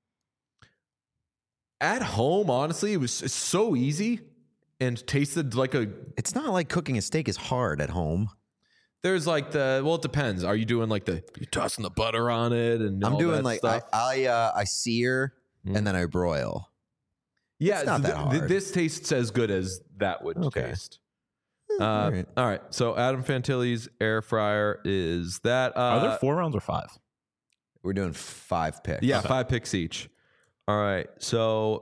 at home, honestly, it's so easy and tasted like It's not like cooking a steak is hard at home. there's like it depends. Are you doing like you're tossing the butter on it and I'm all doing that like stuff? I sear and then I broil. Yeah, It's not that hard. This tastes as good as that would taste. All right. All right. So Adam Fantilli's air fryer is that. Are there 4 rounds or 5? We're doing 5 picks. Yeah, 5 picks each. All right. So,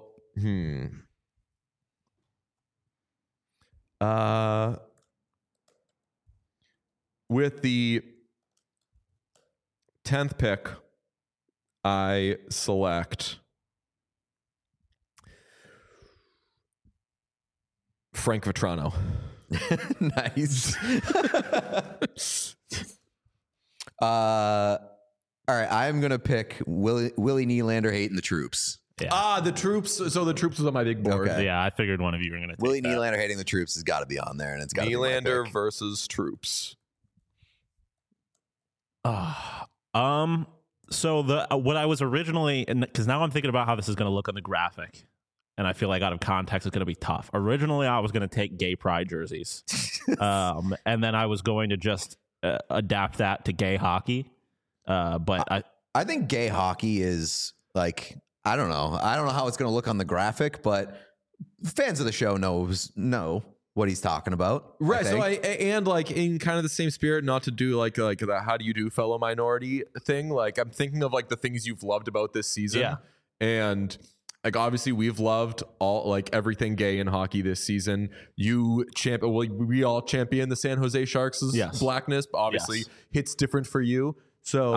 with the 10th pick, I select Frank Vetrano. Nice. All right, I'm gonna pick Willie Nylander hating the troops. Yeah. The troops. So the troops was on my big board. Okay. Yeah, I figured one of you were going to take Willie that. Nylander hating the troops has got to be on there, and it's got to be my Nylander pick. versus troops. So what I was originally, because now I'm thinking about how this is going to look on the graphic, and I feel like out of context it's going to be tough. Originally, I was going to take gay pride jerseys, and then I was going to just adapt that to gay hockey. But I think gay hockey is like I don't know how it's going to look on the graphic, but fans of the show know what he's talking about, Right. I So think. and like in kind of the same spirit, not to do like the how do you do fellow minority thing. Like I'm thinking of like the things you've loved about this season. Yeah. And like obviously we've loved all like everything gay in hockey this season. We all champion the San Jose Sharks' Yes. blackness, but obviously Yes. hits different for you. So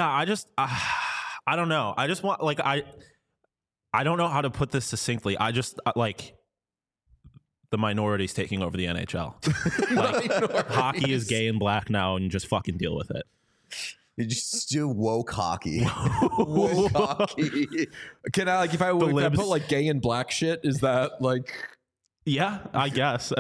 I don't know. I just want I don't know how to put this succinctly. I just like the minorities taking over the NHL. Like, hockey is gay and black now, and just fucking deal with it. You just do woke hockey. Woke hockey. Can I, like, if I put like gay and black shit, is that like? Yeah, I guess.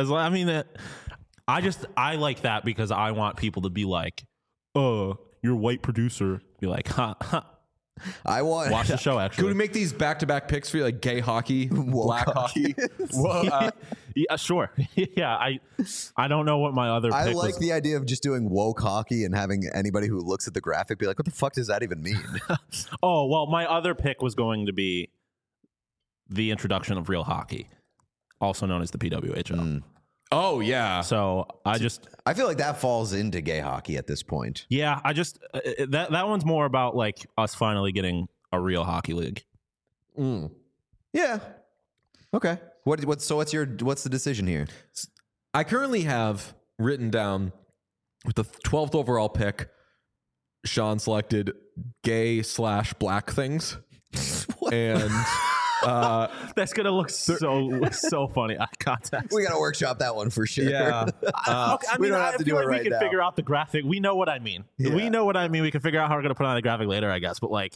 I like that because I want people to be like, "Oh, you're a white producer." Be like, "Huh, huh." I want Watch the show. Actually, Could we make these back-to-back picks for you, like gay hockey, black hockey? Well, yeah, sure. Yeah, I don't know what my other. I pick like was. the idea of just doing woke hockey and having anybody who looks at the graphic be like, "What the fuck does that even mean?" Oh well, my other pick was going to be the introduction of real hockey, also known as the PWHL. Oh yeah. So I feel like that falls into gay hockey at this point. yeah, that one's more about like us finally getting a real hockey league. Yeah. Okay. What's the decision here? I currently have written down with the 12th overall pick, Sean selected gay/black things. And that's gonna look so funny. Eye contact. We gotta workshop that one for sure. yeah. We don't have to do it right we can now. figure out the graphic. We know what I mean. Yeah. We know what I mean. We can figure out how we're gonna put on the graphic later, I guess. But like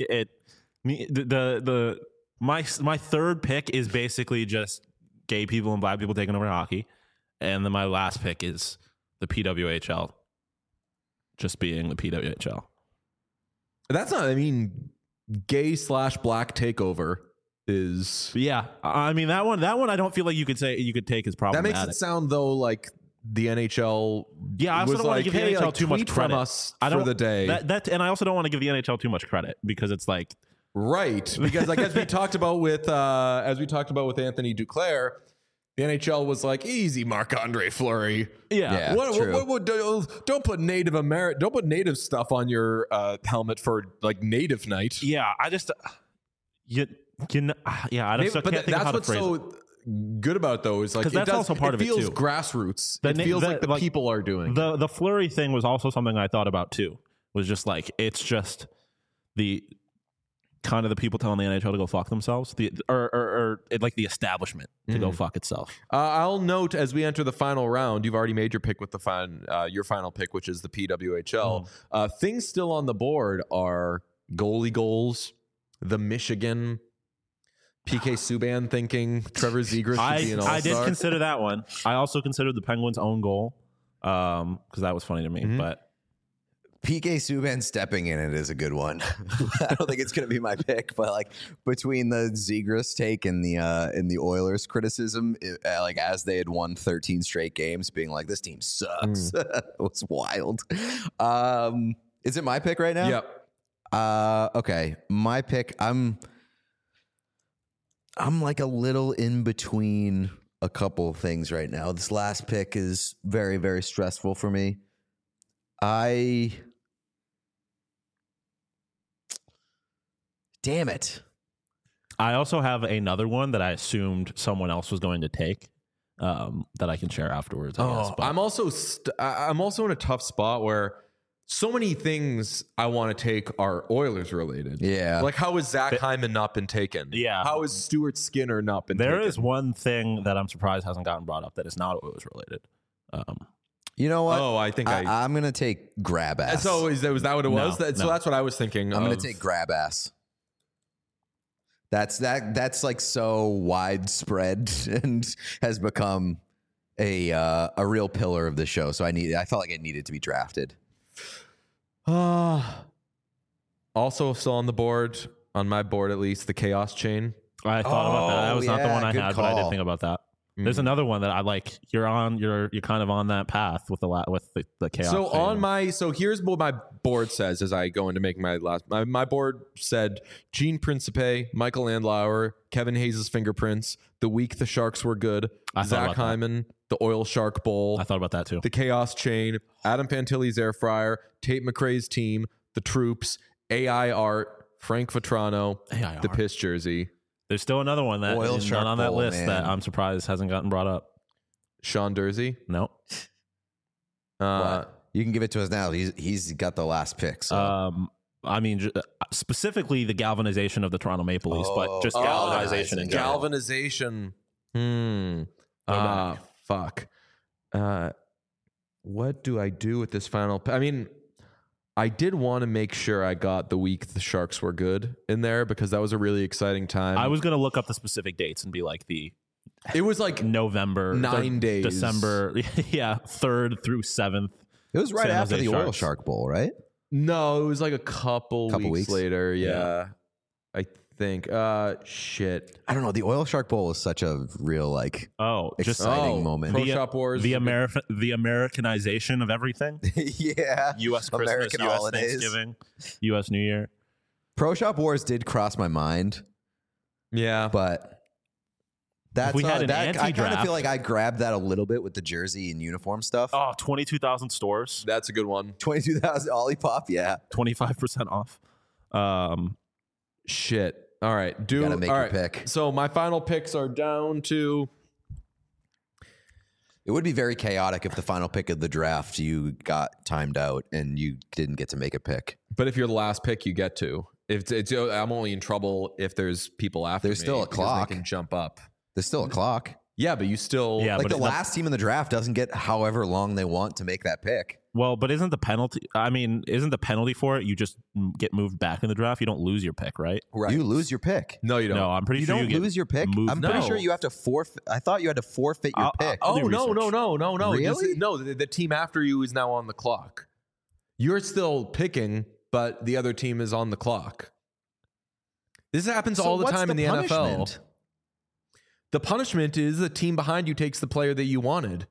my third pick is basically just gay people and black people taking over hockey, and then my last pick is the PWHL, just being the PWHL. That's not. I mean, gay/black takeover is. Yeah, I mean that one. I don't feel like you could take as That problematic. makes it sound though like the NHL. Yeah, I also was don't want like, to give hey, the NHL like, too much tweet credit. from us I don't, for the day. And I also don't want to give the NHL too much credit because it's like Right, because like as we talked about with Anthony Duclair, the NHL was like, easy, Marc-Andre Fleury. yeah. True. Don't put native stuff on your helmet for like native night. Yeah, I just I don't Maybe, can't but think of that's how to what's phrase it. so good about those. Like 'Cause that's also part of it, feels too. grassroots. The It na- feels the- like the like, people are doing. The Fleury thing was also something I thought about too. Was just like it's just the kind of the people telling the NHL to go fuck themselves, or like the establishment to go fuck itself. I'll note as we enter the final round, you've already made your pick with your final pick, which is the PWHL. Things still on the board are goalie goals, the Michigan, PK Subban thinking Trevor Zegras should be an all-star. I did consider that one. I also considered the Penguins' own goal because that was funny to me. But PK Subban stepping in it is a good one. I don't think it's going to be my pick, but like between the Zegras take and the Oilers criticism, like as they had won 13 straight games, being like this team sucks, it was wild. Is it my pick right now? Yep. Okay, my pick. I'm like a little in between a couple of things right now. This last pick is very, very stressful for me. Damn it. I also have another one that I assumed someone else was going to take that I can share afterwards. I guess, but I'm also I'm also in a tough spot where so many things I want to take are Oilers related. Yeah. Like how has Zach Hyman not been taken? Yeah. How has Stuart Skinner not been taken? there is one thing that I'm surprised hasn't gotten brought up that is not Oilers related. You know what? Oh, I think I'm going to take grab ass. So was that what it was? No. So that's what I was thinking. I'm going to take grab ass. That's like so widespread and has become a real pillar of the show. So I felt like it needed to be drafted. Also still on the board, on my board at least, the Chaos Chain. I thought about that. That was not the yeah, one I good had, but I did call. think about that. There's another one that I like. You're kind of on that path with the chaos. So thing. here's what my board says as I go into making my board said Gene Principe, Michael Landauer, Kevin Hayes' fingerprints, the week the Sharks were good, I thought Zach about that. Hyman, the Oil Shark Bowl, I thought about that too. the Chaos Chain, Adam Fantilli's Air Fryer, Tate McRae's team, the Troops, AI Art, Frank Vetrano, AI the Art. Piss Jersey, There's still another one that Oil is Shark not on that Bowl, list man. that I'm surprised hasn't gotten brought up. Sean Dursey. No. What? You can give it to us now. He's got the last pick. So. I mean, specifically the galvanization of the Toronto Maple Leafs, but just galvanization in general. Galvanization. Fuck. What do I do with this final? I mean, I did want to make sure I got the week the Sharks were good in there because that was a really exciting time. I was going to look up the specific dates and be like it was like November, 9 days. December, 3rd through 7th. It was right San after Jose the Oil Sharks. Shark Bowl, right? No, it was like a couple weeks later. Yeah. Yeah. I think. Shit. I don't know. The Oil Shark Bowl is such a real like exciting moment. Pro Shop Wars. The Americanization of everything. Yeah. U.S. Christmas, American U.S. holidays. Thanksgiving, U.S. New Year. Pro Shop Wars did cross my mind, Yeah. but that's we had an I kind of anti-draft. feel like I grabbed that a little bit with the jersey and uniform stuff. Oh, 22,000 stores, That's a good one. 22,000 Olipop, yeah. 25% off. Shit. All right. Gotta make all your right. pick. So my final picks are down to. It would be very chaotic if the final pick of the draft you got timed out and you didn't get to make a pick. But if you're the last pick, you get to. If it's, I'm only in trouble if there's people after There's me still a because clock. They can jump up. There's still a clock. Yeah, but you still. Yeah, Like but the last team in the draft doesn't get however long they want to make that pick. Well, but isn't the penalty? I mean, isn't the penalty for it? You just get moved back in the draft. You don't lose your pick, right? Right. You lose your pick. No, you don't. No, I'm pretty You sure don't you get lose your pick. moved. I'm pretty No. sure you have to forfeit. I thought you had to forfeit your pick. I'll do no. Really? No, the team after you is now on the clock. You're still picking, but the other team is on the clock. This happens So all the what's time in the punishment? NFL. The punishment is the team behind you takes the player that you wanted.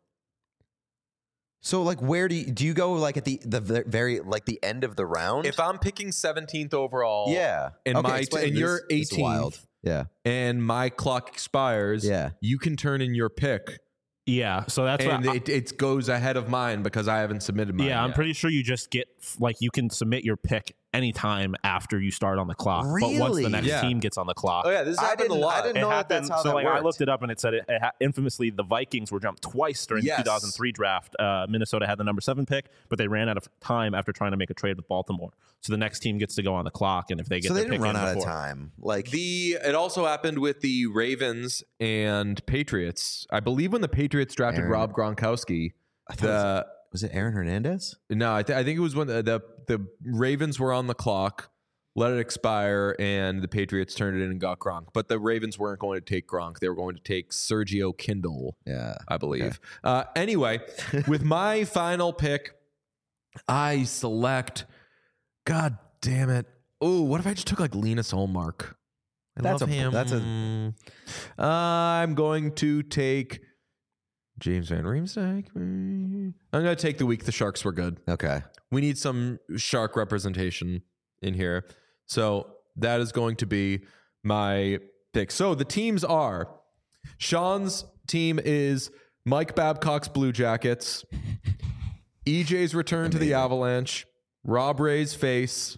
So like, where do you go? Like at the very like the end of the round? If I'm picking 17th overall, yeah, and Okay, my explain and this. you're This is wild. 18th, Yeah, and my clock expires, Yeah. you can turn in your pick, Yeah, so that's and what it goes ahead of mine because I haven't submitted mine. I'm yet. pretty sure you just get like you can submit your pick anytime after you start on the clock. But once Really? the next Yeah. team gets on the clock, Oh yeah, this I happened a didn't- lot. I didn't it know that happened. that's how so that like I worked. looked it up and it said infamously the Vikings were jumped twice during Yes. the 2003 draft. Minnesota had the number 7 pick, but they ran out of time after trying to make a trade with Baltimore. So the next team gets to go on the clock, and if they get so they their didn't pick run in out of before- time. Like It also happened with the Ravens and Patriots. I believe when the Patriots drafted Aaron- Rob Gronkowski, I thought was it Aaron Hernandez? no, I think it was when the Ravens were on the clock, let it expire, and the Patriots turned it in and got Gronk. But the Ravens weren't going to take Gronk; they were going to take Sergio Kindle, Yeah, I believe. Anyway, with my final pick, I select. God damn it! Oh, what if I just took like Linus Olmark? I That's love a- him. that's I'm going to take James Van Riemsdyk. I'm going to take the week the Sharks were good. Okay. We need some Shark representation in here. So that is going to be my pick. So the teams are Sean's team is Mike Babcock's Blue Jackets, EJ's return to the Avalanche, Rob Ray's face,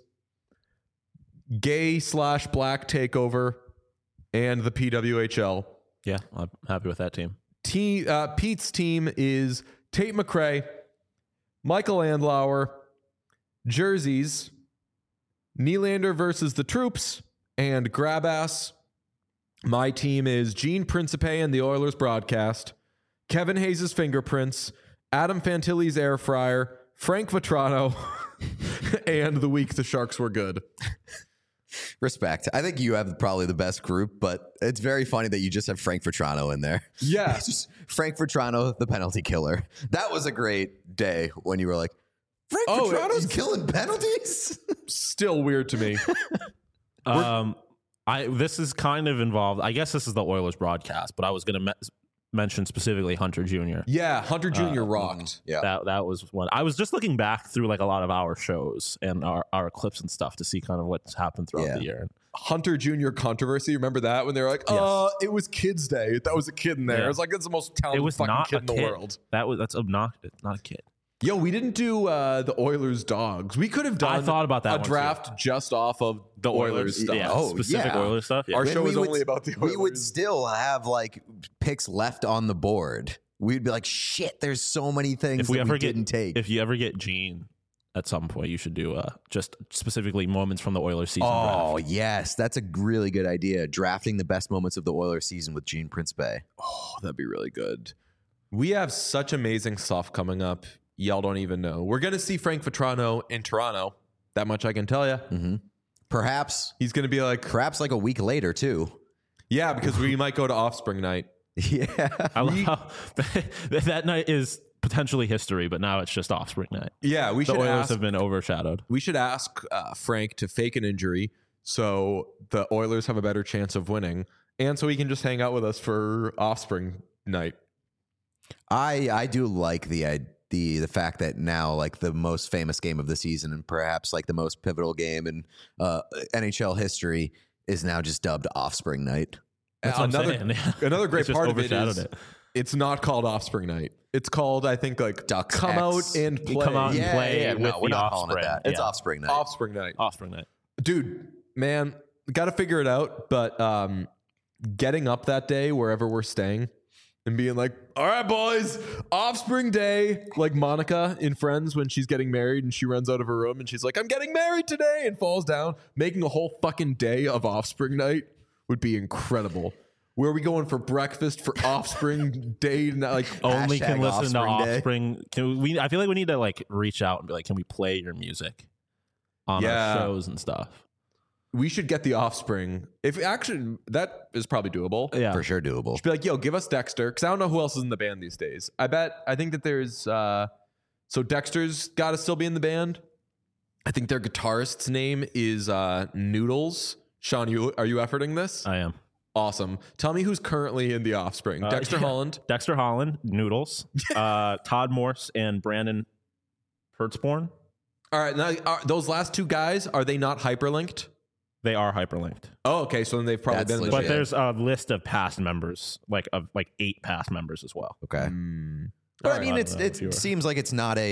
gay/black takeover, and the PWHL. Yeah, I'm happy with that team. Pete's team is Tate McRae, Michael Andlauer, jerseys, Nylander versus the Troops, and Grabass. My team is Gene Principe and the Oilers broadcast, Kevin Hayes' fingerprints, Adam Fantilli's air fryer, Frank Vetrano, and the week the Sharks were good. Respect. I think you have probably the best group, but it's very funny that you just have Frank Vetrano in there. Yeah. It's just Frank Vetrano, the penalty killer. That was a great day when you were like, Frank Vetrano's killing penalties? Still weird to me. This is kind of involved. I guess this is the Oilers broadcast, but I was going to mention specifically Hunter Jr. Yeah, Hunter Jr. rocked. Yeah. That was one. I was just looking back through like a lot of our shows and our clips and stuff to see kind of what's happened throughout the year. Hunter Jr. controversy. Remember that when they were like, it was Kids Day. That was a kid in there. Yeah. It was like, it's the most It talented was fucking not kid a in the kid. world. That's obnoxious. Not a kid. Yo, we didn't do the Oilers dogs. We could have done I thought about that a one, draft just off of the Oilers stuff. Yeah, Oh, specific yeah. Oilers stuff. Yeah. Our When show we is would- only about the Oilers. We would still have like picks left on the board. We'd be like, shit, there's so many things if we that ever we get didn't take. if you ever get Gene at some point, you should do just specifically moments from the Oilers season. Oh, draft. yes. That's a really good idea. Drafting the best moments of the Oilers season with Gene Principe. Oh, that'd be really good. We have such amazing stuff coming up y'all don't even know. We're going to see Frank Vetrano in Toronto. That much I can tell you. Perhaps He's going to be like, like a week later too. yeah, because we might go to Offspring night. Yeah. I love how that night is potentially history, but now it's just Offspring night. Yeah, we The should Oilers ask. have been overshadowed. We should ask Frank to fake an injury so the Oilers have a better chance of winning, and so he can just hang out with us for Offspring night. I do like the fact that now like the most famous game of the season and perhaps like the most pivotal game in NHL history is now just dubbed Offspring Night. That's what I'm saying. Another great It's just part of it overshadowed is it. it's not called Offspring night. It's called, I think, like Ducks come X. out and You play. come out and Yeah, play yeah, with no, we're the not calling it Offspring. that. It's Yeah. Offspring Night. Offspring night. Offspring night. Dude, man, got to figure it out. But getting up that day, wherever we're staying, and being like, all right, boys, Offspring Day. Like Monica in Friends when she's getting married and she runs out of her room and she's like, I'm getting married today, and falls down. Making a whole fucking day of Offspring Night would be incredible. Where are we going for breakfast for Offspring Day? Like, Only can Hashtag listen to Offspring Day. Offspring. Can we? I feel like we need to like reach out and be like, can we play your music on Yeah. our shows and stuff? we should get the Offspring. If actually, that is probably doable. Yeah, For sure doable. Be like, yo, give us Dexter, because I don't know who else is in the band these days. I think that there's so Dexter's got to still be in the band. I think their guitarist's name is Noodles. Sean, are you efforting this? I am. Awesome. Tell me who's currently in the Offspring. Dexter yeah. Holland. Dexter Holland, Noodles, Todd Morse, and Brandon Hertzborn. All right, now those last two guys, are they not hyperlinked? They are hyperlinked. Oh, okay. So then they've probably That's been in the But legit. band. there's a list of past members, like 8 past members as well. Okay. Mm. But All I right. mean, I don't know if you it were- seems like it's not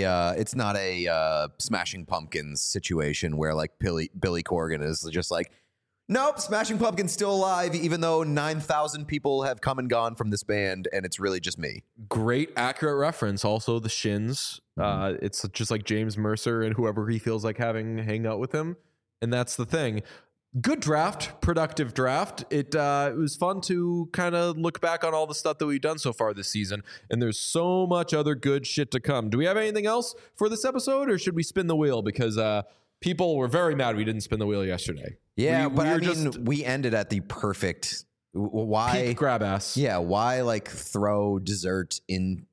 a Smashing Pumpkins situation where like Billy Corgan is just like, nope, Smashing Pumpkins still alive, even though 9,000 people have come and gone from this band, and it's really just me. Great, accurate reference. Also, the Shins. It's just like James Mercer and whoever he feels like hang out with him, and that's the thing. Good draft, productive draft. It was fun to kind of look back on all the stuff that we've done so far this season, and there's so much other good shit to come. Do we have anything else for this episode, or should we spin the wheel? Because people were very mad we didn't spin the wheel yesterday. Yeah, We but I were mean, just we ended at the perfect. Why? peak grab ass. Yeah, why like throw dessert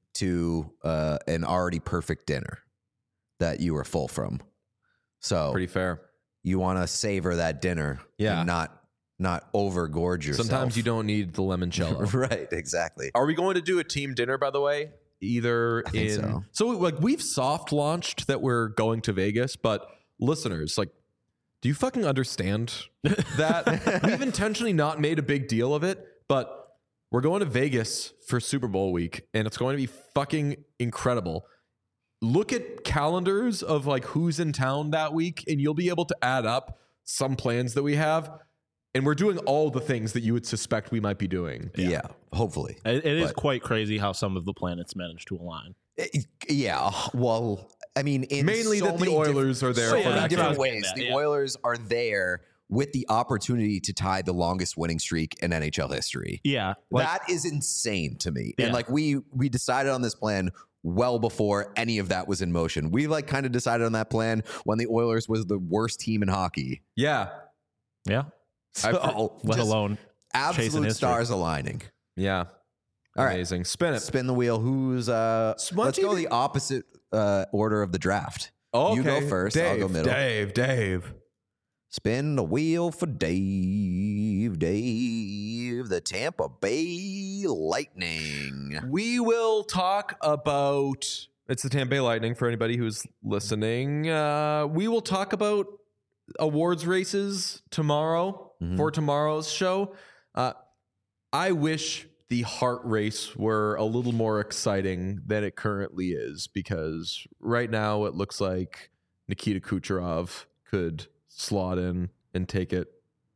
into an already perfect dinner that you were full from? So Pretty fair. you want to savor that dinner, Yeah. and not overgorge yourself. Sometimes you don't need the limoncello. Right, exactly. Are we going to do a team dinner, by the way? Either I think in so. like we've soft launched that we're going to Vegas, but listeners, like, do you fucking understand that we've intentionally not made a big deal of it, but we're going to Vegas for Super Bowl week, and it's going to be fucking incredible. Look at calendars of like who's in town that week, and you'll be able to add up some plans that we have. And we're doing all the things that you would suspect we might be doing. Yeah, hopefully. It is But- quite crazy how some of the planets managed to align. Yeah, well, I mean, in Mainly so that the many Oilers are there so for many that different game. ways. Yeah, The yeah. Oilers are there with the opportunity to tie the longest winning streak in NHL history. Yeah, That is insane to me. And Yeah. like we decided on this plan well before any of that was in motion. We like kind of decided on that plan when the Oilers was the worst team in hockey. Yeah. yeah. So, Let just alone chasing absolute history. stars aligning. Yeah. All right. Amazing. Spin it. Spin the wheel. Who's why let's don't go you the opposite order of the draft. Oh, You go first, Dave, I'll go middle. Dave. Spin the wheel for Dave. The Tampa Bay Lightning. We will talk about it's the Tampa Bay Lightning for anybody who's listening. We will talk about awards races tomorrow for tomorrow's show. I wish the Hart race were a little more exciting than it currently is, because right now it looks like Nikita Kucherov could slot in and take it.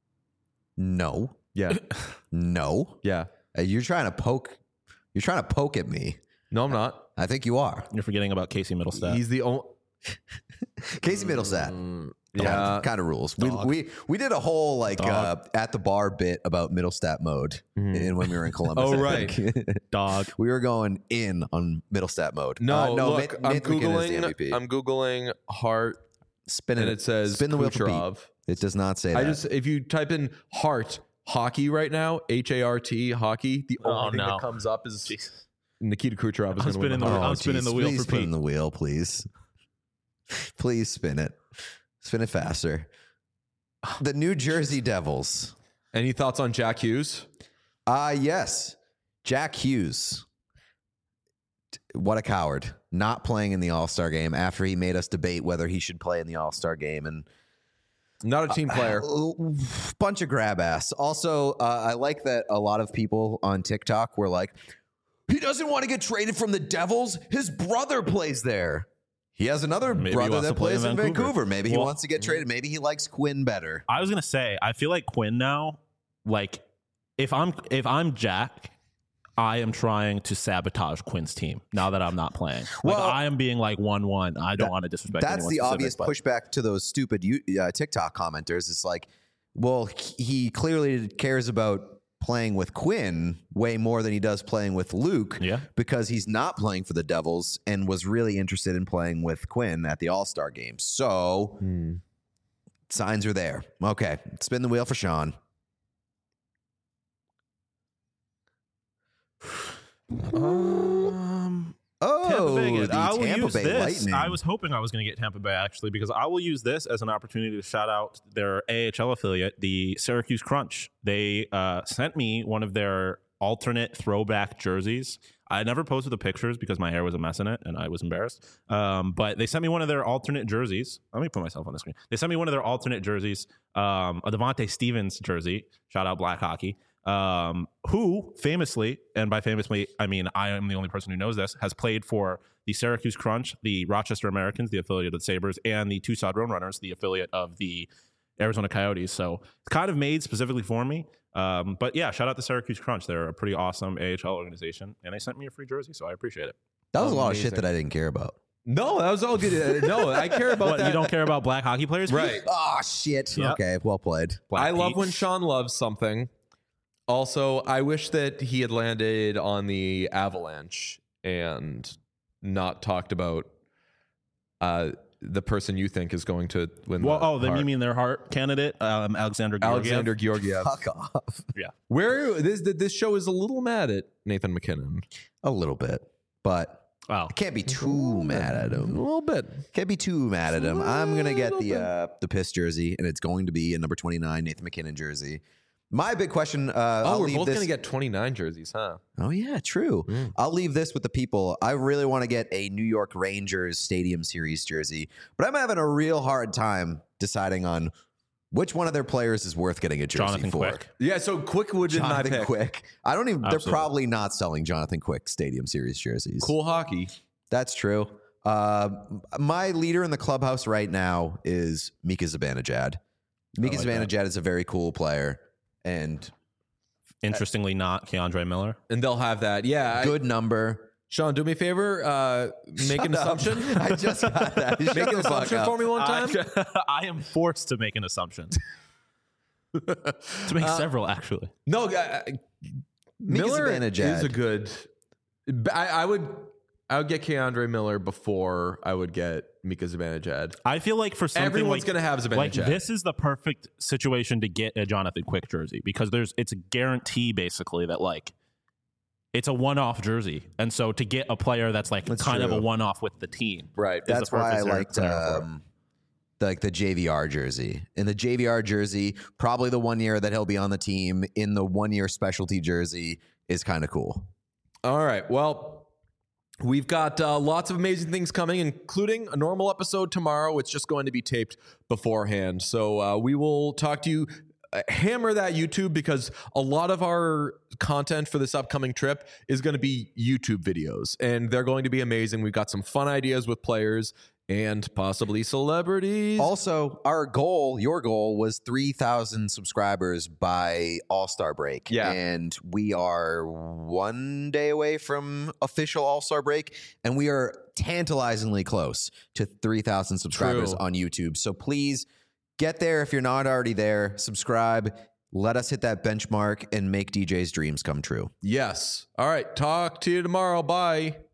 No, Yeah. no. Yeah. You're trying to poke. You're trying to poke at me. No, I'm not. I think you are. You're forgetting about Casey Middlestat. He's the only. Casey Middlestat. Yeah. kind of rules. We did a whole like at the bar bit about middle stat mode when we were in Columbus. Oh, I right. think. Dog. We were going in on middle stat mode. No, no. look, I'm Nathan McKinnon is the googling. MVP. I'm googling Hart, Spin and it says spin the wheel for Pete. Kucherov. It does not say that. If you type in Hart hockey right now, HART hockey, the only thing that comes up is Nikita Kucherov is going to win the Hart. I'm spinning the wheel please for spin Pete. the wheel, please. Please spin it. Spin it faster. The New Jersey Devils. Any thoughts on Jack Hughes? Yes. Jack Hughes. What a coward. Not playing in the All-Star game after he made us debate whether he should play in the All-Star game. And Not a team player. bunch of grab ass. Also, I like that a lot of people on TikTok were like, he doesn't want to get traded from the Devils. His brother plays there. He has another Maybe he brother wants that to play plays in in Vancouver. Vancouver. Maybe he Well, wants to get traded. Maybe he likes Quinn better. I was gonna say, I feel like Quinn now, like if I'm Jack, I am trying to sabotage Quinn's team now that I'm not playing. Like, Well, I am being like 1-1. I don't want to disrespect That's anyone the specific, obvious but pushback to those stupid TikTok commenters. It's like, well, he clearly cares about playing with Quinn way more than he does playing with Luke because he's not playing for the Devils and was really interested in playing with Quinn at the All-Star game. So signs are there. Okay, spin the wheel for Sean. Tampa Bay again. the I will Tampa use Bay this. Lightning. I was hoping I was going to get Tampa Bay actually because I will use this as an opportunity to shout out their AHL affiliate, the Syracuse Crunch. They sent me one of their alternate throwback jerseys. I never posted the pictures because my hair was a mess in it and I was embarrassed. But they sent me one of their alternate jerseys. Let me put myself on the screen. They sent me one of their alternate jerseys, a Devontae Stevens jersey. Shout out Black Hockey. Who famously, and by famously, I mean I am the only person who knows this, has played for the Syracuse Crunch, the Rochester Americans, the affiliate of the Sabres, and the Tucson Roadrunners, the affiliate of the Arizona Coyotes. So it's kind of made specifically for me. But yeah, shout out to Syracuse Crunch. They're a pretty awesome AHL organization, and they sent me a free jersey, so I appreciate it. That was a lot of Amazing. shit that I didn't care about. No, that was all good. No, I care about What, that. you don't care about black hockey players? Right. Oh, shit. Yep. Okay, well played. Black I love Pete. when Sean loves something. Also, I wish that he had landed on the Avalanche and not talked about the person you think is going to win. Well, the then you Hart. mean their Hart candidate, Alexander Georgiev? Alexander Georgiev? Fuck off. Yeah. Where this show is a little mad at Nathan McKinnon. A little bit, but Wow. can't be too mad at A him. little bit. Can't be too mad at him. I'm gonna get the piss jersey, and it's going to be a number 29 Nathan McKinnon jersey. My big question. I'll We're leave both this. going to get 29 jerseys, huh? Oh yeah, true. I'll leave this with the people. I really want to get a New York Rangers Stadium Series jersey, but I'm having a real hard time deciding on which one of their players is worth getting a jersey Jonathan for. Quick. Yeah, so Quick would be my Jonathan pick. Quick. I don't even. They're Absolutely. probably not selling Jonathan Quick Stadium Series jerseys. Cool hockey. That's true. My leader in the clubhouse right now is Mika Zibanejad. Mika like that. Zibanejad is a very cool player and Interestingly, not Keandre Miller. And they'll have that. Yeah. good number. Sean, do me a favor. Make an Shut up. assumption. I just got that. Make an assumption for me one time. I am forced to make an assumption. To make several, actually. No, Miller Zibanejad. is a good. I would get Keandre Miller before I would get Mika Zibanejad. I feel like for something Everyone's like, going to have Zibanejad. like this is the perfect situation to get a Jonathan Quick jersey because it's a guarantee basically that like it's a one-off jersey, and so to get a player that's like That's kind of true. a one-off with the team, Right. is the That's why I perfect liked scenario for it. the JVR jersey. In the JVR jersey, probably the 1 year that he'll be on the team in the 1 year specialty jersey is kind of cool. All right. Well, we've got lots of amazing things coming, including a normal episode tomorrow. It's just going to be taped beforehand. So we will talk to you. Hammer that YouTube because a lot of our content for this upcoming trip is going to be YouTube videos, and they're going to be amazing. We've got some fun ideas with players and possibly celebrities. Also, our goal, your goal, was 3,000 subscribers by All-Star break. Yeah. And we are 1 day away from official All-Star break, and we are tantalizingly close to 3,000 subscribers True. on YouTube. So please Get there if you're not already there. Subscribe. Let us hit that benchmark and make DJ's dreams come true. Yes. All right. Talk to you tomorrow. Bye.